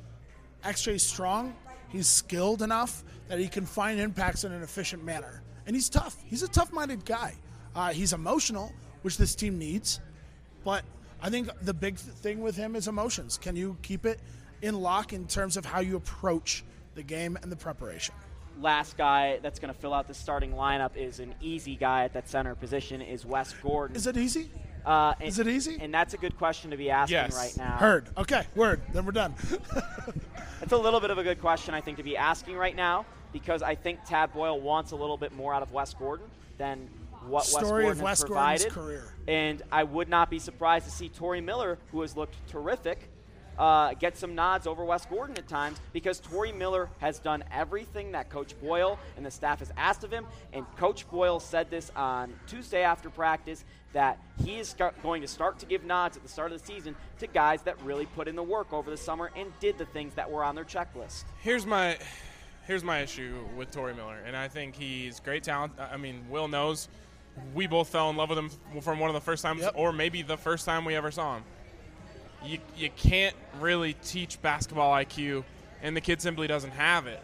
X J's strong, he's skilled enough that he can find impacts in an efficient manner. And he's tough. He's a tough-minded guy. Uh, he's emotional, which this team needs. But I think the big th- thing with him is emotions. Can you keep it in lock in terms of how you approach the game and the preparation? Last guy that's going to fill out the starting lineup is an easy guy at that center position is Wes Gordon. Is it easy? Uh, and, Is it easy? And that's a good question to be asking Yes. right now. Heard. Okay, word. Then we're done. It's a little bit of a good question, I think, to be asking right now, because I think Tad Boyle wants a little bit more out of Wes Gordon than what Story Wes of Gordon Wes has Gordon's provided. career. And I would not be surprised to see Torrey Miller, who has looked terrific, uh, get some nods over Wes Gordon at times, because Torrey Miller has done everything that Coach Boyle and the staff has asked of him. And Coach Boyle said this on Tuesday after practice, that he is start, going to start to give nods at the start of the season to guys that really put in the work over the summer and did the things that were on their checklist. Here's my here's my issue with Torrey Miller, and I think he's great talent. I mean, Will knows we both fell in love with him from one of the first times, Yep. or maybe the first time we ever saw him. You you can't really teach basketball I Q, and the kid simply doesn't have it.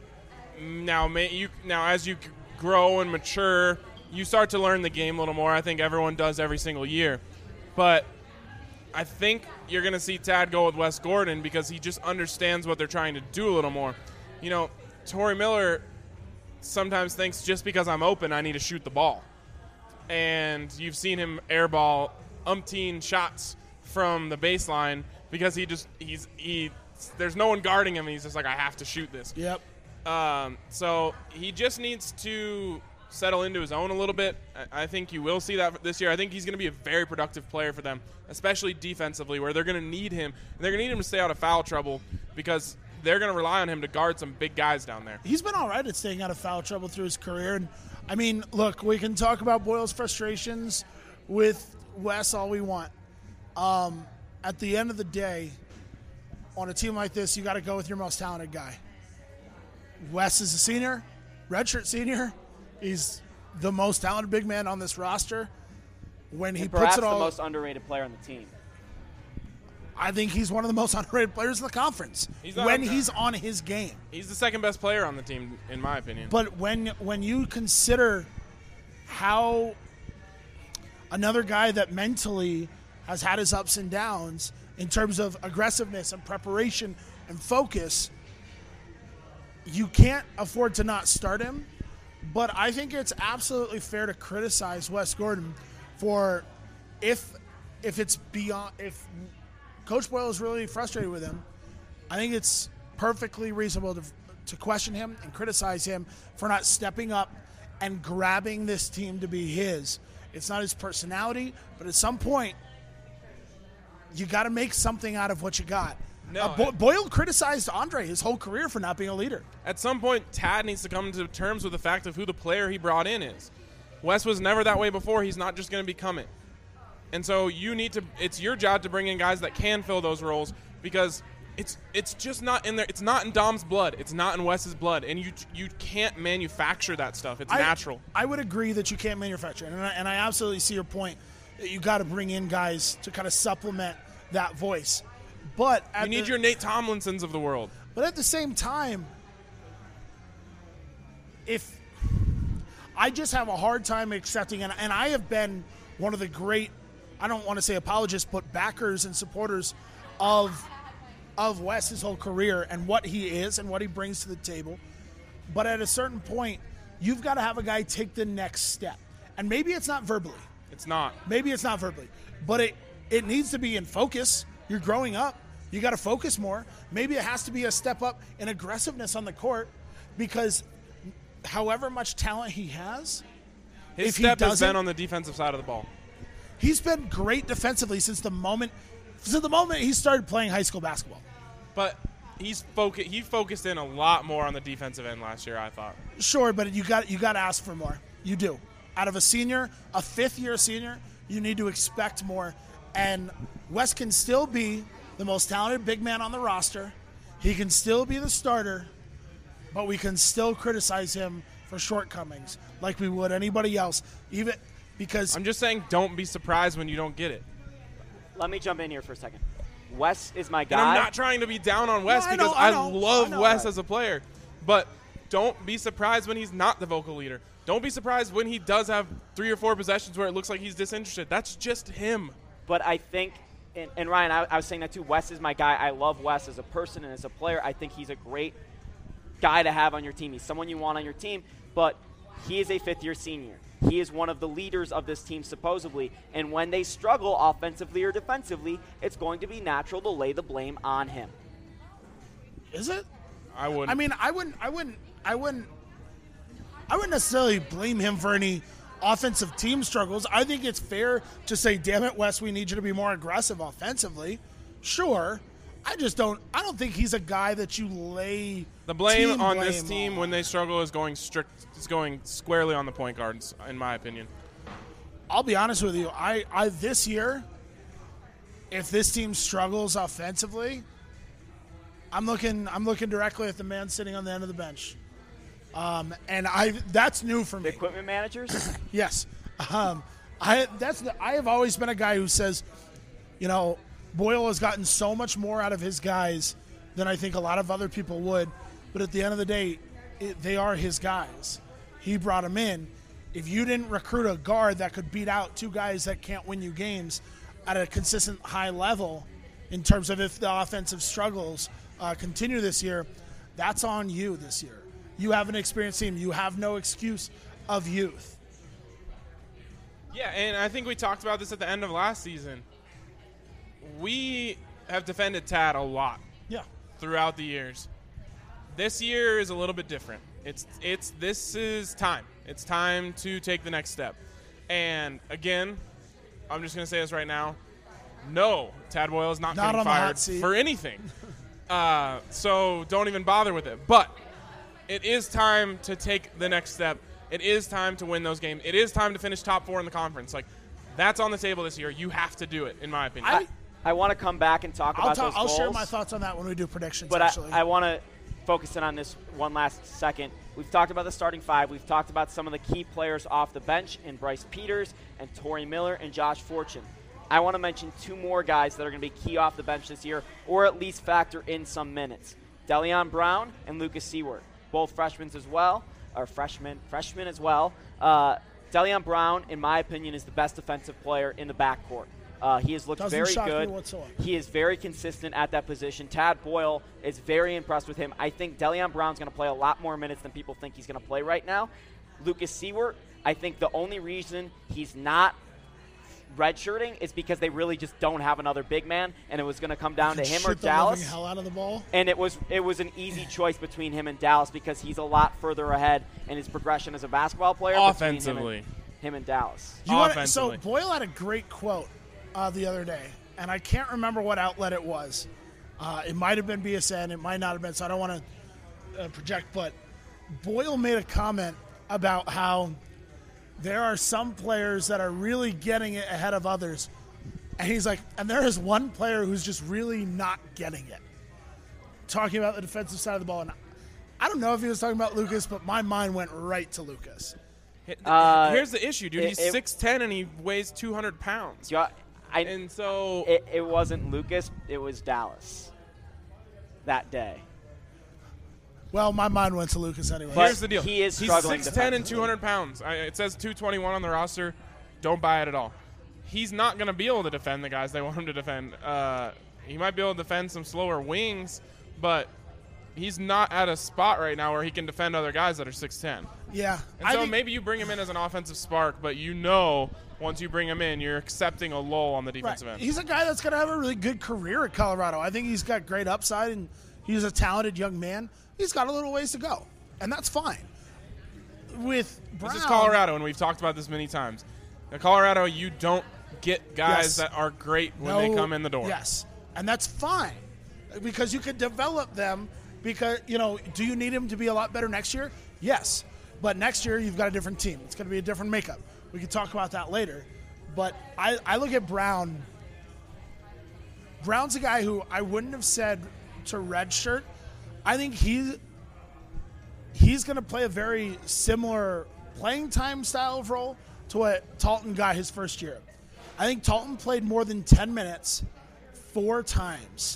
Now, may you now as you grow and mature, you start to learn the game a little more. I think everyone does every single year, but I think you're going to see Tad go with Wes Gordon because he just understands what they're trying to do a little more. You know, Torrey Miller sometimes thinks just because I'm open, I need to shoot the ball. And you've seen him airball umpteen shots from the baseline because he just, he's, he, there's no one guarding him. And he's just like, I have to shoot this. Yep. Um, so he just needs to settle into his own a little bit. I I think you will see that this year. I think he's going to be a very productive player for them, especially defensively, where they're going to need him. They're going to need him to stay out of foul trouble because they're going to rely on him to guard some big guys down there. He's been all right at staying out of foul trouble through his career. And, I mean, look, we can talk about Boyle's frustrations with Wes all we want. Um, at the end of the day, on a team like this, you got to go with your most talented guy. Wes is a senior, redshirt senior. He's the most talented big man on this roster. When he And puts perhaps it all, the most underrated player on the team. I think he's one of the most underrated players in the conference. He's not when under- he's on his game. He's the second best player on the team, in my opinion. But when when you consider how another guy that mentally has had his ups and downs in terms of aggressiveness and preparation and focus, you can't afford to not start him. But I think it's absolutely fair to criticize Wes Gordon for if if it's beyond if Coach Boyle is really frustrated with him, I think it's perfectly reasonable to to question him and criticize him for not stepping up and grabbing this team to be his. It's not his personality, but at some point, you got to make something out of what you got. No, uh, Bo- Boyle criticized Andre his whole career for not being a leader. At some point, Tad needs to come to terms with the fact of who the player he brought in is. Wes was never that way before. He's not just going to become it. And so you need to – it's your job to bring in guys that can fill those roles because it's it's just not in there. It's not in Dom's blood. It's not in Wes's blood. And you you can't manufacture that stuff. It's I, natural. I would agree that you can't manufacture it. And I, and I absolutely see your point that you got to bring in guys to kind of supplement that voice. But at You need the, your Nate Tomlinsons of the world. But at the same time, if I just have a hard time accepting, and, and I have been one of the great, I don't want to say apologists, but backers and supporters of of Wes his whole career and what he is and what he brings to the table. But at a certain point, you've got to have a guy take the next step. And maybe it's not verbally. It's not. Maybe it's not verbally. But it, it needs to be in focus. You're growing up. You got to focus more. Maybe it has to be a step up in aggressiveness on the court because however much talent he has, His if step he has been doesn't- on the defensive side of the ball. he's been great defensively since the moment since the moment he started playing high school basketball. But he's focu- he focused in a lot more on the defensive end last year, I thought. Sure, but you got you got to ask for more. You do. Out of a senior, a fifth-year senior, you need to expect more. And Wes can still be the most talented big man on the roster. He can still be the starter, but we can still criticize him for shortcomings like we would anybody else, even because I'm just saying don't be surprised when you don't get it. Let me jump in here for a second. Wes is my guy. And I'm not trying to be down on Wes No, I because know, I I, know, love I know Wes that. as a player. But don't be surprised when he's not the vocal leader. Don't be surprised when he does have three or four possessions where it looks like he's disinterested. That's just him. But I think, and, and Ryan, I, I was saying that too, Wes is my guy. I love Wes as a person and as a player. I think he's a great guy to have on your team. He's someone you want on your team, but he is a fifth-year senior. He is one of the leaders of this team, supposedly. And when they struggle offensively or defensively, it's going to be natural to lay the blame on him. is it? I wouldn't. I mean, I wouldn't, I wouldn't, I wouldn't, I wouldn't necessarily blame him for any offensive team struggles. I think it's fair to say, "Damn it, Wes, we need you to be more aggressive offensively." Sure, I just don't. I don't think he's a guy that you lay the blame team on blame this team on. when they struggle is going strict. Is going squarely on the point guards, in my opinion. I'll be honest with you. I, I this year, if this team struggles offensively, I'm looking. I'm looking directly at the man sitting on the end of the bench. Um, and I that's new for The me. equipment managers? Yes, um, I that's the, I have always been a guy who says, you know, Boyle has gotten so much more out of his guys than I think a lot of other people would. But at the end of the day, it, they are his guys. He brought them in. If you didn't recruit a guard that could beat out two guys that can't win you games at a consistent high level, in terms of if the offensive struggles uh, continue this year, that's on you this year. You have an experienced team. You have no excuse of youth. Yeah, and I think we talked about this at the end of last season. We have defended Tad a lot Yeah. throughout the years. This year is a little bit different. It's it's this is time. It's time to take the next step. And again, I'm just going to say this right now. No, Tad Boyle is not, Not getting on the hot fired seat. for anything. uh, so don't even bother with it. But it is time to take the next step. It is time to win those games. It is time to finish top four in the conference. Like, that's on the table this year. You have to do it, in my opinion. I- I want to come back and talk I'll, about talk, those I'll goals. share my thoughts on that when we do predictions, But I, actually. I want to focus in on this one last second. We've talked about the starting five. We've talked about some of the key players off the bench in Bryce Peters and Torrey Miller and Josh Fortune. I want to mention two more guys that are going to be key off the bench this year, or at least factor in some minutes. Delion Brown and Lucas Seward, both freshmen as well, or freshmen, freshmen as well. Uh, Delion Brown, in my opinion, is the best defensive player in the backcourt. Uh, he has looked Doesn't very shock me good. whatsoever. He is very consistent at that position. Tad Boyle is very impressed with him. I think Delion Brown's going to play a lot more minutes than people think he's going to play right now. Lucas Seward, I think the only reason he's not redshirting is because they really just don't have another big man, and it was going to come down to him or Shoot the Dallas. living hell out of the ball. And it was it was an easy choice between him and Dallas because he's a lot further ahead in his progression as a basketball player. Offensively. Him and, him and Dallas. You wanna, Offensively. so Boyle had a great quote uh, the other day, and I can't remember what outlet it was. Uh, it might have been B S N. It might not have been, so I don't want to uh, project. But Boyle made a comment about how there are some players that are really getting it ahead of others. And he's like, and there is one player who's just really not getting it. Talking about the defensive side of the ball. And I don't know if he was talking about Lucas, but my mind went right to Lucas. Uh, Here's the issue, dude. it- He's it- six ten and he weighs two hundred pounds. So I, I, And so it, it wasn't Lucas. It was Dallas that day. Well, my mind went to Lucas anyway. But here's the deal. he is He's struggling six ten and defensively. two hundred pounds. I, it says two twenty-one on the roster. Don't buy it at all. He's not going to be able to defend the guys they want him to defend. Uh, he might be able to defend some slower wings, but he's not at a spot right now where he can defend other guys that are six ten. Yeah. And I so think- maybe you bring him in as an offensive spark, but you know once you bring him in, you're accepting a lull on the Right. defensive end. He's a guy that's going to have a really good career at Colorado. I think he's got great upside, and he's a talented young man. He's got a little ways to go, and that's fine. With Brown, This is Colorado, and we've talked about this many times. In Colorado, you don't get guys Yes. that are great when no- they come in the door. Yes, and that's fine because you could develop them. Because you know, do you need him to be a lot better next year? Yes, but next year you've got a different team. It's going to be a different makeup. We can talk about that later. But I, I look at Brown. Brown's a guy who I wouldn't have said to redshirt. I think he he's going to play a very similar playing time style of role to what Talton got his first year. I think Talton played more than ten minutes four times.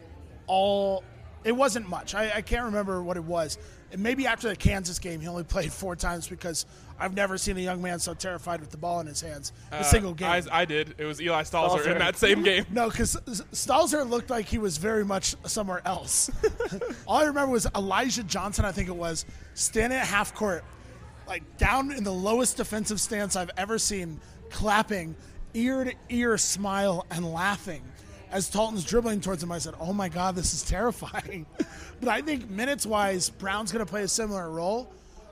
All it wasn't much. I, I can't remember what it was. And maybe after the Kansas game, he only played four times because I've never seen a young man so terrified with the ball in his hands a Uh, single game. I, I did. It was Eli Stalzer in Stalzer. that same game. No, because Stalzer looked like he was very much somewhere else. All I remember was Elijah Johnson, I think it was, standing at half court, like down in the lowest defensive stance I've ever seen, clapping, ear to ear smile and laughing. As Talton's dribbling towards him, I said, oh my God, this is terrifying. But I think minutes-wise, Brown's going to play a similar role.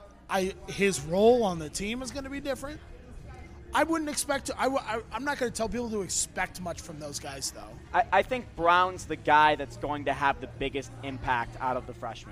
I His role on the team is going to be different. I wouldn't expect to. I, w- I, I'm not going to tell people to expect much from those guys, though. I, I think Brown's the guy that's going to have the biggest impact out of the freshmen.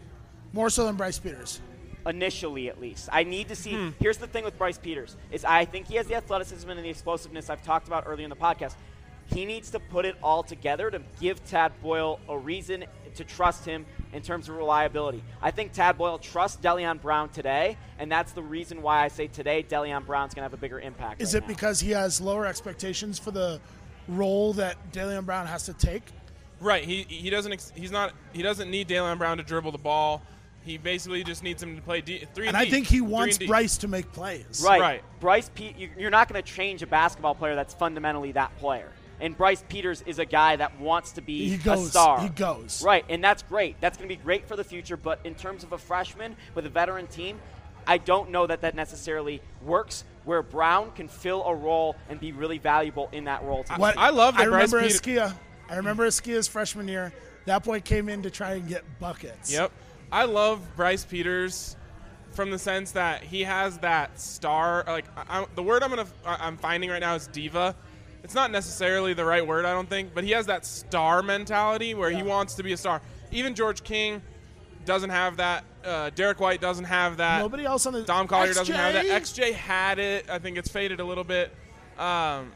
More so than Bryce Peters. Initially, at least. I need to see. Hmm. Here's the thing with Bryce Peters is I think he has the athleticism and the explosiveness I've talked about earlier in the podcast. He needs to put it all together to give Tad Boyle a reason to trust him in terms of reliability. I think Tad Boyle trusts Delion Brown today, and that's the reason why I say today Delion Brown's going to have a bigger impact. Is right it now. because he has lower expectations for the role that Delion Brown has to take? Right. He he doesn't ex- he's not he doesn't need Dalen Brown to dribble the ball. He basically just needs him to play D, three And and I D, think he three wants and D. Bryce to make plays. Right. Right. Bryce, Pe- you- you're not going to change a basketball player that's fundamentally that player. And Bryce Peters is a guy that wants to be He goes. a star. He goes. Right, and that's great. That's going to be great for the future. But in terms of a freshman with a veteran team, I don't know that that necessarily works where Brown can fill a role and be really valuable in that role. I- What I love that I Bryce remember Peters- Esquia. I remember Esquia's freshman year. That boy came in to try and get buckets. Yep. I love Bryce Peters from the sense that he has that star. Like I, I, the word I'm gonna I'm finding right now is diva. It's not necessarily the right word, I don't think, but he has that star mentality where he wants to be a star. Even George King doesn't have that. Uh, Derek White doesn't have that. Nobody else on the Dom Collier X J? doesn't have that. X J had it. I think it's faded a little bit. Um,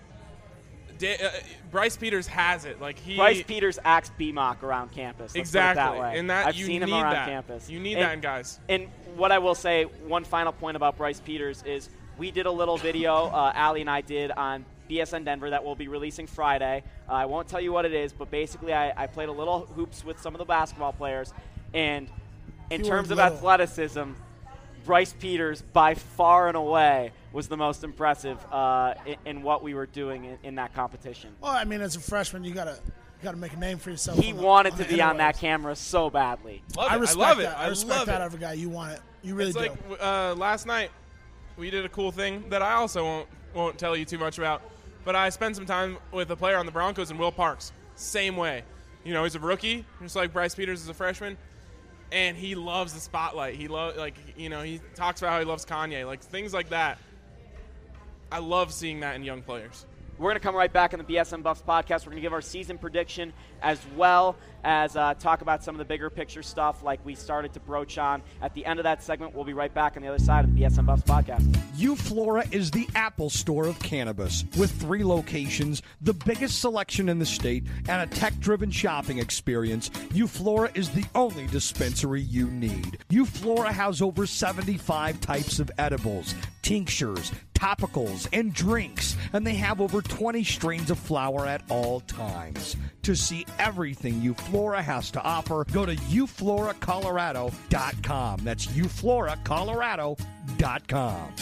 Da- uh, Bryce Peters has it. Like he Bryce Peters acts B M O C around campus. Let's exactly, put it that way. and that I've you seen need him around that. campus. You need and, that in guys. And what I will say, one final point about Bryce Peters is we did a little video, uh, Allie and I did on B S N Denver that we'll be releasing Friday. Uh, I won't tell you what it is, but basically I, I played a little hoops with some of the basketball players, and in You terms were of little. athleticism, Bryce Peters by far and away was the most impressive uh, in, in what we were doing in, in that competition. Well, I mean, as a freshman, you gotta you gotta make a name for yourself. He on the- wanted on to the be on that interwebs. camera so badly. Love I it. respect love it. that. I, I respect love that it. of a guy. You want it. You really It's do. like uh, last night we did a cool thing that I also won't won't tell you too much about. But I spent some time with a player on the Broncos, and Will Parks, same way. You know, he's a rookie, just like Bryce Peters is a freshman, and he loves the spotlight. He loves, like, you know, he talks about how he loves Kanye, like things like that. I love seeing that in young players. We're going to come right back on the B S N Buffs podcast. We're going to give our season prediction as well as uh, talk about some of the bigger picture stuff like we started to broach on. At the end of that segment, we'll be right back on the other side of the B S N Buffs podcast. Euflora is the Apple Store of cannabis. With three locations, the biggest selection in the state, and a tech-driven shopping experience, Euflora is the only dispensary you need. Euflora has over seventy-five types of edibles, tinctures, topicals, and drinks, and they have over twenty strains of flower at all times. To see everything Euflora has to offer, go to eu flora colorado dot com. That's eu flora colorado dot com.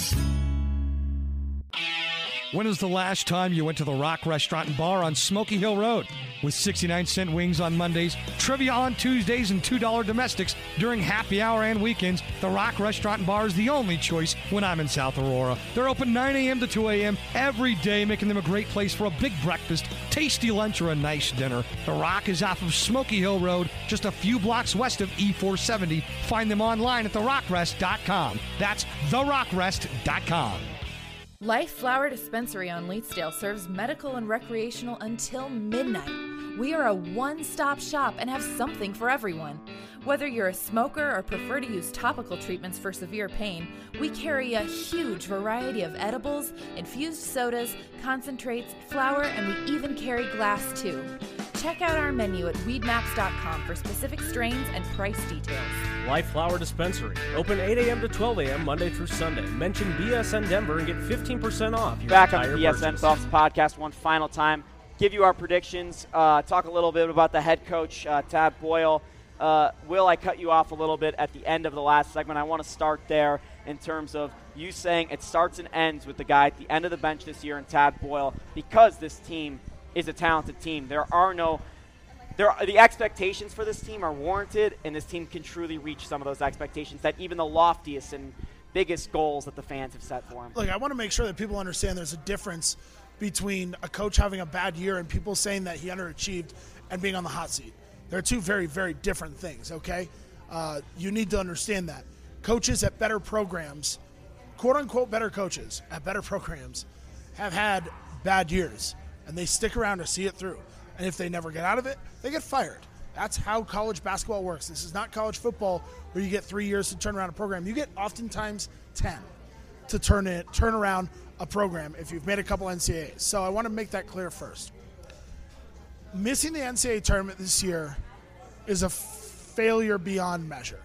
When was the last time you went to the Rock Restaurant and Bar on Smoky Hill Road? With sixty-nine cent wings on Mondays, trivia on Tuesdays, and two dollar domestics during happy hour and weekends, the Rock Restaurant and Bar is the only choice when I'm in South Aurora. They're open nine a.m. to two a.m. every day, making them a great place for a big breakfast, tasty lunch, or a nice dinner. The Rock is off of Smoky Hill Road, just a few blocks west of E four seventy. Find them online at the rock rest dot com. That's the rock rest dot com. Life Flower Dispensary on Leetsdale serves medical and recreational until midnight. We are a one-stop shop and have something for everyone. Whether you're a smoker or prefer to use topical treatments for severe pain, we carry a huge variety of edibles, infused sodas, concentrates, flower, and we even carry glass too. Check out our menu at weed maps dot com for specific strains and price details. Life Flower Dispensary. Open eight a.m. to twelve a.m. Monday through Sunday. Mention B S N Denver and get fifteen percent off your Back on entire the B S N purchase. Buffs podcast one final time. Give you our predictions. Uh, talk a little bit about the head coach, uh, Tad Boyle. Uh, Will, I cut you off a little bit at the end of the last segment. I want to start there in terms of you saying it starts and ends with the guy at the end of the bench this year in Tad Boyle because this team is a talented team. There are no there are, the expectations for this team are warranted, and this team can truly reach some of those expectations that even the loftiest and biggest goals that the fans have set for him. Look, I want to make sure that people understand there's a difference between a coach having a bad year and people saying that he underachieved and being on the hot seat. They're two very, very different things, okay? Uh, you need to understand that. Coaches at better programs, quote-unquote better coaches at better programs, have had bad years, and they stick around to see it through. And if they never get out of it, they get fired. That's how college basketball works. This is not college football where you get three years to turn around a program. You get oftentimes ten to turn it, turn around a program if you've made a couple N C A As. So I want to make that clear first. Missing the N C A A tournament this year is a failure beyond measure.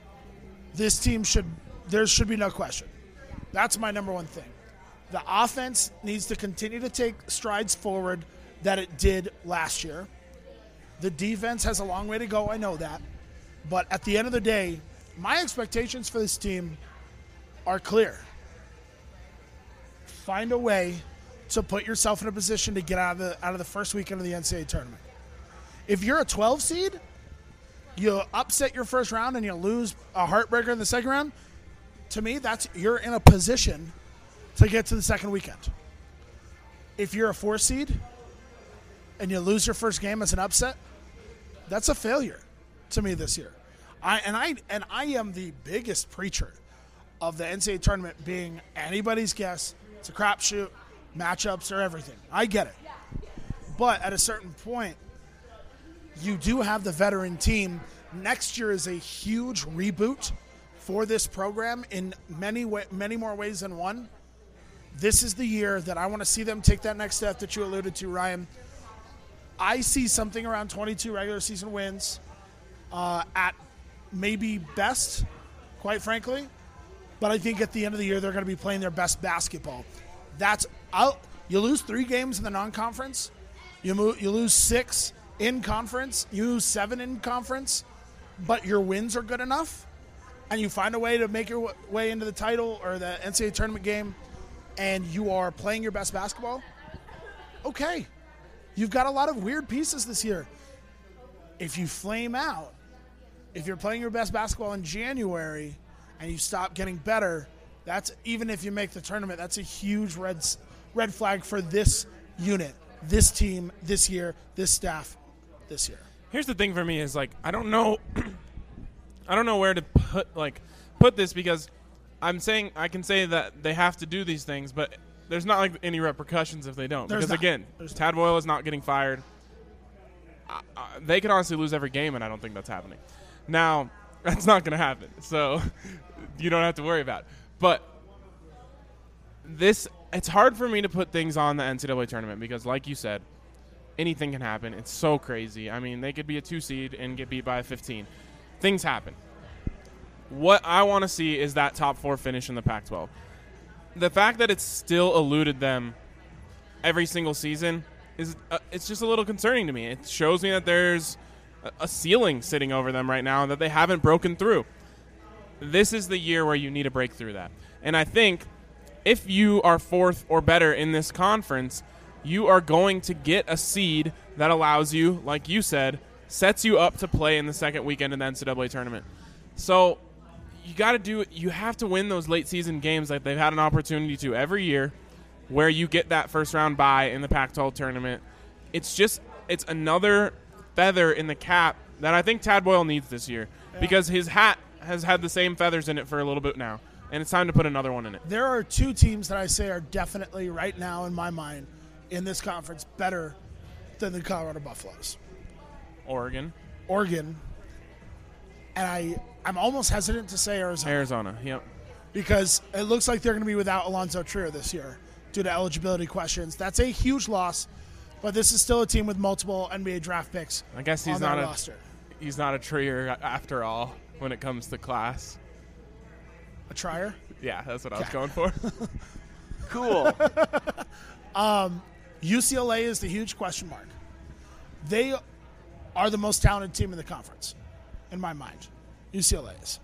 This team should, there should be no question. That's my number one thing. The offense needs to continue to take strides forward that it did last year. The defense has a long way to go, I know that. But at the end of the day, my expectations for this team are clear. Find a way to put yourself in a position to get out of the out of the first weekend of the N C A A tournament. If you're a twelve seed, you upset your first round and you lose a heartbreaker in the second round, to me, that's you're in a position to get to the second weekend. If you're a four seed and you lose your first game as an upset, that's a failure to me this year. I and I and I am the biggest preacher of the N C A A tournament being anybody's guess. It's a crapshoot. Matchups are everything. I get it. But at a certain point, you do have the veteran team. Next year is a huge reboot for this program in many way, many more ways than one. This is the year that I want to see them take that next step that you alluded to, Ryan. I see something around twenty-two regular season wins uh, at maybe best, quite frankly. But I think at the end of the year, they're going to be playing their best basketball. That's I'll, you lose three games in the non-conference. You, move, you lose six in conference. You lose seven in conference. But your wins are good enough. And you find a way to make your way into the title or the N C A A tournament game. And you are playing your best basketball. Okay. You've got a lot of weird pieces this year. If you flame out, if you're playing your best basketball in January and you stop getting better, that's even if you make the tournament, that's a huge red red flag for this unit, this team, this year, this staff, this year. Here's the thing for me is like I don't know, I don't know where to put like put this because I'm saying I can say that they have to do these things, but there's not like any repercussions if they don't. There's because not. again, There's Tad Boyle is not getting fired. Uh, uh, they could honestly lose every game, and I don't think that's happening. Now, that's not going to happen, so you don't have to worry about it. But this, it's hard for me to put things on the N C double A tournament because, like you said, anything can happen. It's so crazy. I mean, they could be a two seed and get beat by a fifteen. Things happen. What I want to see is that top four finish in the Pac twelve. The fact that it's still eluded them every single season is uh, it's just a little concerning to me. It shows me that there's a, a ceiling sitting over them right now and that they haven't broken through. This is the year where you need to break through that. And I think if you are fourth or better in this conference, you are going to get a seed that allows you, like you said, sets you up to play in the second weekend in the N C double A tournament. So you got to do it. You have to win those late season games that they've had an opportunity to every year where you get that first round bye in the Pac twelve tournament. It's just, it's another feather in the cap that I think Tad Boyle needs this year yeah. because his hat has had the same feathers in it for a little bit now, and it's time to put another one in it. There are two teams that I say are definitely right now in my mind in this conference better than the Colorado Buffaloes. Oregon. Oregon. And I, I'm almost hesitant to say Arizona. Arizona, yep. Because it looks like they're going to be without Alonzo Trier this year due to eligibility questions. That's a huge loss, but this is still a team with multiple N B A draft picks I guess he's on not their a, roster. He's not a Trier after all when it comes to class. A trier? Yeah, that's what I was going for. Cool. um, U C L A is the huge question mark. They are the most talented team in the conference, in my mind. U C L A is.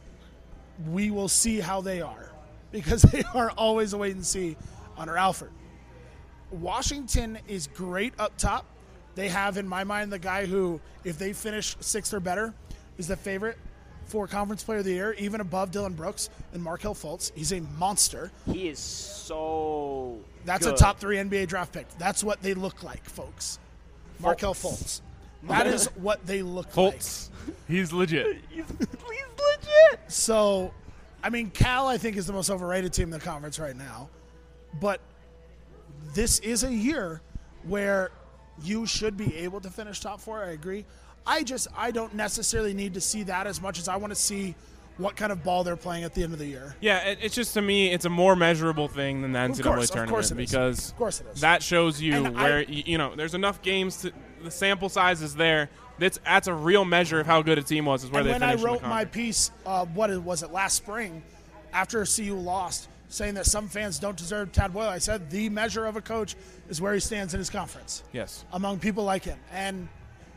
We will see how they are because they are always a wait and see under Alford. Washington is great up top. They have, in my mind, the guy who, if they finish sixth or better, is the favorite for Conference Player of the Year, even above Dylan Brooks and Markelle Fultz. He's a monster. He is so That's good. a top three N B A draft pick. That's what they look like, folks. Markelle Fultz. That is what they look Fultz. like. He's legit. he's, he's legit. So, I mean, Cal, I think, is the most overrated team in the conference right now. But this is a year where you should be able to finish top four. I agree. I just, I don't necessarily need to see that as much as I want to see what kind of ball they're playing at the end of the year. Yeah, it, it's just, to me, it's a more measurable thing than the N C double A course, tournament of course it is. because Of course it is. that shows you And where, I- you, you know, there's enough games to, the sample size is there. That's, that's a real measure of how good a team was, is where And they when I finished in the wrote my conference. piece, uh, what it- was it, last spring, after C U lost, saying that some fans don't deserve Tad Boyle, I said the measure of a coach is where he stands in his conference. Yes. Among people like him. And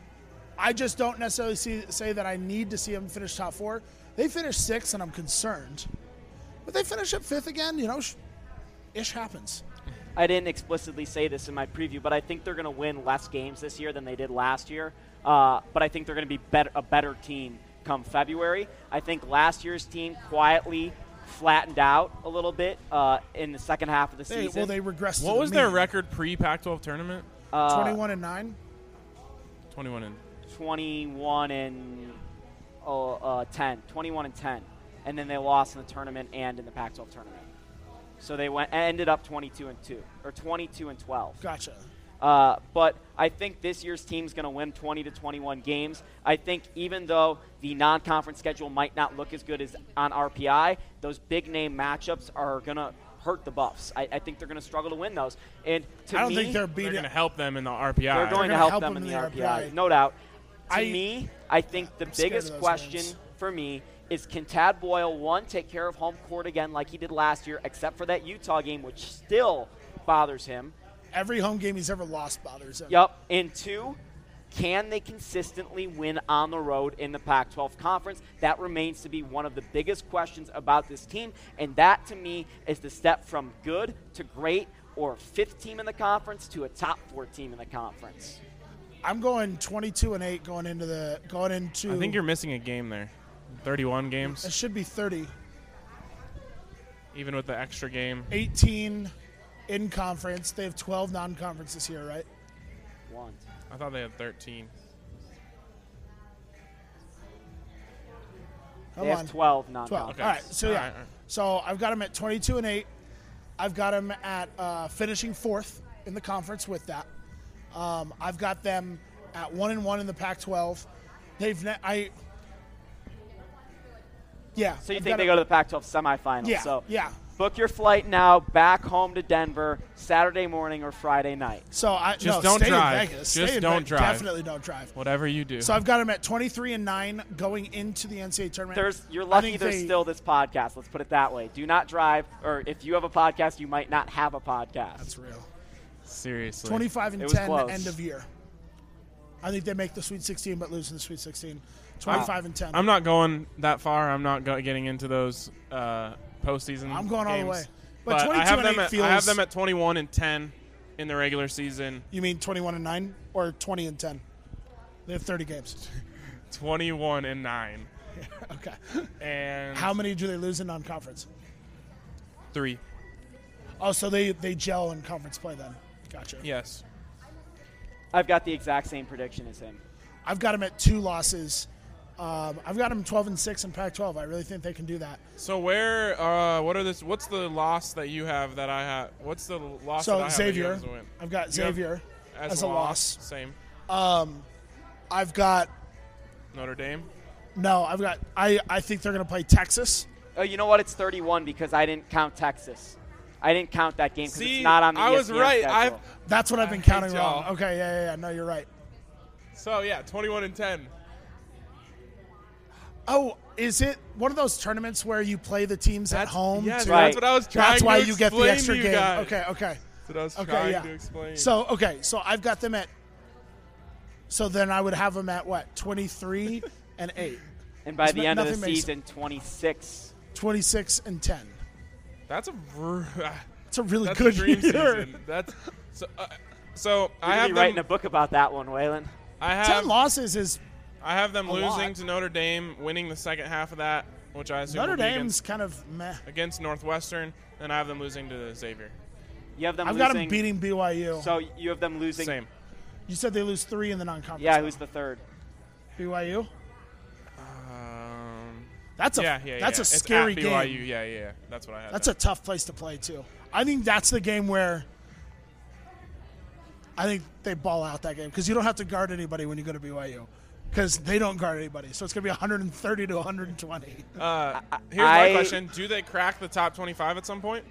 I just don't necessarily see, say that I need to see him finish top four. They finished sixth, and I'm concerned. But they finish at fifth again, you know, sh- ish happens. I didn't explicitly say this in my preview, but I think they're going to win less games this year than they did last year. Uh, but I think they're going to be better, a better team come February. I think last year's team quietly flattened out a little bit uh, in the second half of the They, season. well, they regressed to What the was their mean. record pre-Pac twelve tournament? Uh, twenty-one and nine? twenty-one and twenty-one and uh, uh, ten. twenty-one and ten. And then they lost in the tournament and in the Pac twelve tournament. So they went ended up twenty-two and two, or twenty-two and twelve. Gotcha. Uh, but I think this year's team's going to win twenty to twenty-one games. I think even though the non-conference schedule might not look as good as on R P I, those big-name matchups are going to hurt the Buffs. I, I think they're going to struggle to win those. And to I don't me, think they're they're beating going to help them in the R P I. they're going to gonna help, help them them in in the, the R P I, R P I. no doubt. To I- me, I think the I'm scared biggest of those question wins. for me is, can Tad Boyle, one, take care of home court again like he did last year, except for that Utah game, which still bothers him. Every home game he's ever lost bothers him. Yep. And two, can they consistently win on the road in the Pac twelve conference? That remains to be one of the biggest questions about this team. And that, to me, is the step from good to great, or fifth team in the conference to a top four team in the conference. I'm going twenty-two and eight going into the going into. I think you're missing a game there. thirty-one games, It should be thirty. even with the extra game. eighteen in conference. They have twelve non-conference this year, right? One. I thought they had thirteen. Come They have on. twelve non twelve. Okay. All right. So All yeah. right, all right. So I've got them at twenty-two and eight. I've got them at uh, finishing fourth in the conference with that. Um, I've got them at one and one in the Pac twelve. They've ne- I. Yeah. So you I've think got they a- go to the Pac twelve semifinals? Yeah. So Yeah. book your flight now back home to Denver Saturday morning or Friday night. So I Just no, don't stay drive. in Vegas. Just Stay in don't Vegas. drive. Definitely don't drive. Whatever you do. So I've got them at twenty-three and nine going into the N C double A tournament. There's, you're I lucky think there's they- still this podcast. Let's put it that way. Do not drive, or if you have a podcast, you might not have a podcast. That's real. Seriously. twenty-five and It was ten close. end of year. I think they make the Sweet sixteen but lose in the Sweet sixteen. twenty-five and ten. I'm not going that far. I'm not go- getting into those uh, postseason. I'm going all the games. way. But But, I twenty-two have and them. eight At, feels. I have them at twenty-one and ten in the regular season. You mean twenty-one and nine or twenty and ten? They have thirty games. twenty-one and nine. Okay. And How many do they lose in non-conference? three. Oh, so they they gel in conference play then. Gotcha. Yes. I've got the exact same prediction as him. I've got them at two losses. Um, I've got them twelve and six in Pac twelve. I really think they can do that. So where? Uh, what are this? What's the loss that you have that I have? What's the loss that So I have Xavier, that you have as a win? I've got You have Xavier as, as a a loss. Same. I've got Notre Dame. no. I've got. I I think they're going to play Texas. Oh, you know what? It's thirty-one because I didn't count Texas. I didn't count that game because See, it's not on the I E S was P N right. schedule. I've That's what I've been I counting hate wrong. y'all. Okay, yeah, yeah, yeah. No, you're right. So yeah, twenty-one and ten. Oh, is it one of those tournaments where you play the teams at That's- home? yes, too? Right. that's what I was trying That's why to you get the explain extra to you game. guys. Okay, okay. That's what I was Okay, trying yeah. to explain. So okay, so I've got them at. So then I would have them at what? twenty-three and eight, And by It's the not- end of the nothing makes- season, twenty-six. twenty-six and ten. that's a r- It's a really that's good a dream year. season. That's so. Uh, so I You're have be writing them. a book about that one, Waylon. I have Ten losses is I have them a losing lot. to Notre Dame, winning the second half of that, which I assume Notre will be Dame's against, kind of meh. against Northwestern, and I have them losing to Xavier. You have them I've losing. got them beating B Y U. So you have them losing. Same. You said they lose three in the non-conference. Yeah, though. who's the third? B Y U? Um, That's a yeah, yeah, that's yeah. a It's scary at B Y U. game. Yeah, yeah, yeah. That's what I had. That's a down. tough place to play too. I think that's the game where I think they ball out that game because you don't have to guard anybody when you go to B Y U because they don't guard anybody. So it's gonna be one hundred thirty to one hundred twenty. Uh, here's my I- question: do they crack the top twenty-five at some point?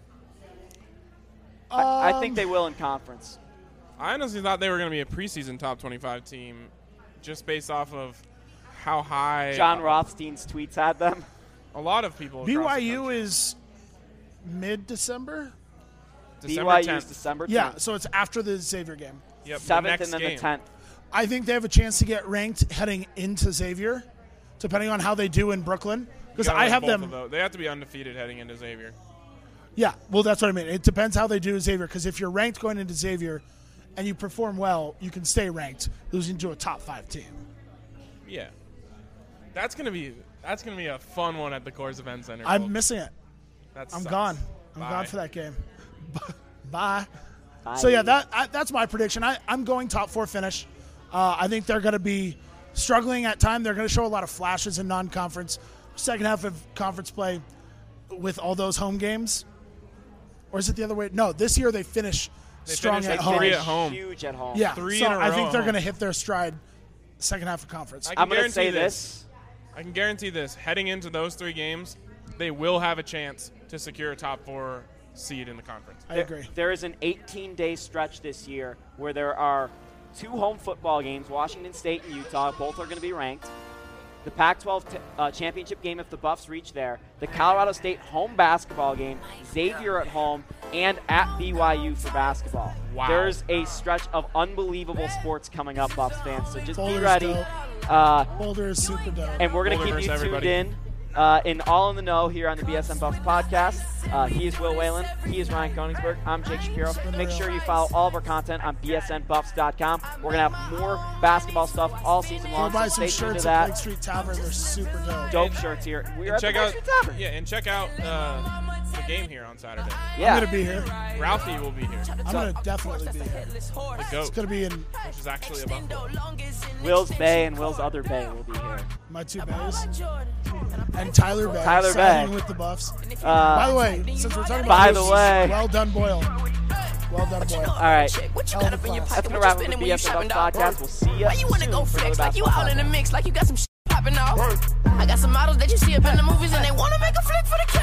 I, I Um, think they will in conference. I honestly thought they were going to be a preseason top twenty-five team, just based off of how high John Rothstein's tweets had them. a lot of people. B across Y the U country. is mid-December. December B Y U's tenth. December tenth. Yeah, so it's after the Xavier game. Yep, the seventh next and then game. the tenth. I think they have a chance to get ranked heading into Xavier, depending on how they do in Brooklyn. You Because gotta I win have both them. of those. They have to be undefeated heading into Xavier. Yeah, well, that's what I mean. It depends how they do in Xavier. Because if you're ranked going into Xavier, and you perform well, you can stay ranked, losing to a top five team. Yeah, that's gonna be that's gonna be a fun one at the Coors Event Center. I'm folks. missing it. That I'm sucks. gone. I'm Bye. gone for that game. Bye. Bye. So yeah, that I, that's my prediction. I, I'm going top four finish. Uh, I think they're going to be struggling at time. They're going to show a lot of flashes in non-conference. Second half of conference play with all those home games. Or is it the other way? No, this year they finish They strong finish at like home. three at home. Huge at home. Yeah, Three so in a I row think at they're going to home. hit their stride second half of conference. I can I'm going to guarantee say this. this. I can guarantee this. Heading into those three games, they will have a chance to secure a top four seed in the conference. I There- agree. There is an eighteen-day stretch this year where there are two home football games, Washington State and Utah. Both are going to be ranked. The Pac twelve t- uh, championship game if the Buffs reach there. The Colorado State home basketball game. Xavier at home and at B Y U for basketball. Wow. There's a stretch of unbelievable sports coming up, Buffs fans. So just Boulder's be ready. dope. Uh, Boulder is super dope. and we're going to Boulder keep you versus tuned everybody. in Uh, in All in the Know here on the B S N Buffs podcast. Uh, he is Will Whalen. He is Ryan Koenigsberg. I'm Jake Shapiro. Make sure you follow all of our content on B S N Buffs dot com. We're going to have more basketball stuff all season long. Go buy so some stay tuned shirts to at that. Lake Street Tavern. They're super dope. Dope shirts here. We're at check the out, Lake Street Tavern. Yeah, and check out uh, the game here on Saturday. Yeah. I'm going to be here. Ralphie will be here. I'm going to definitely be here. The It's GOAT, going to be in which is actually a Buffalo. Will's Bay and Will's other Bay will be here. my two bays. And Tyler Bay. Tyler signing Bay. with the Buffs. Uh, By the way, since we're talking about by this, the way. well done, Boyle. Well done, Boyle. All right. Hell of a class. That's going to wrap up the B S N Buffs podcast. We'll see you Why you wanna soon go for flex another like you basketball all in podcast. the mix, like you got some shit popping off? I got some models that you see up in the movies and they wanna make a flick for the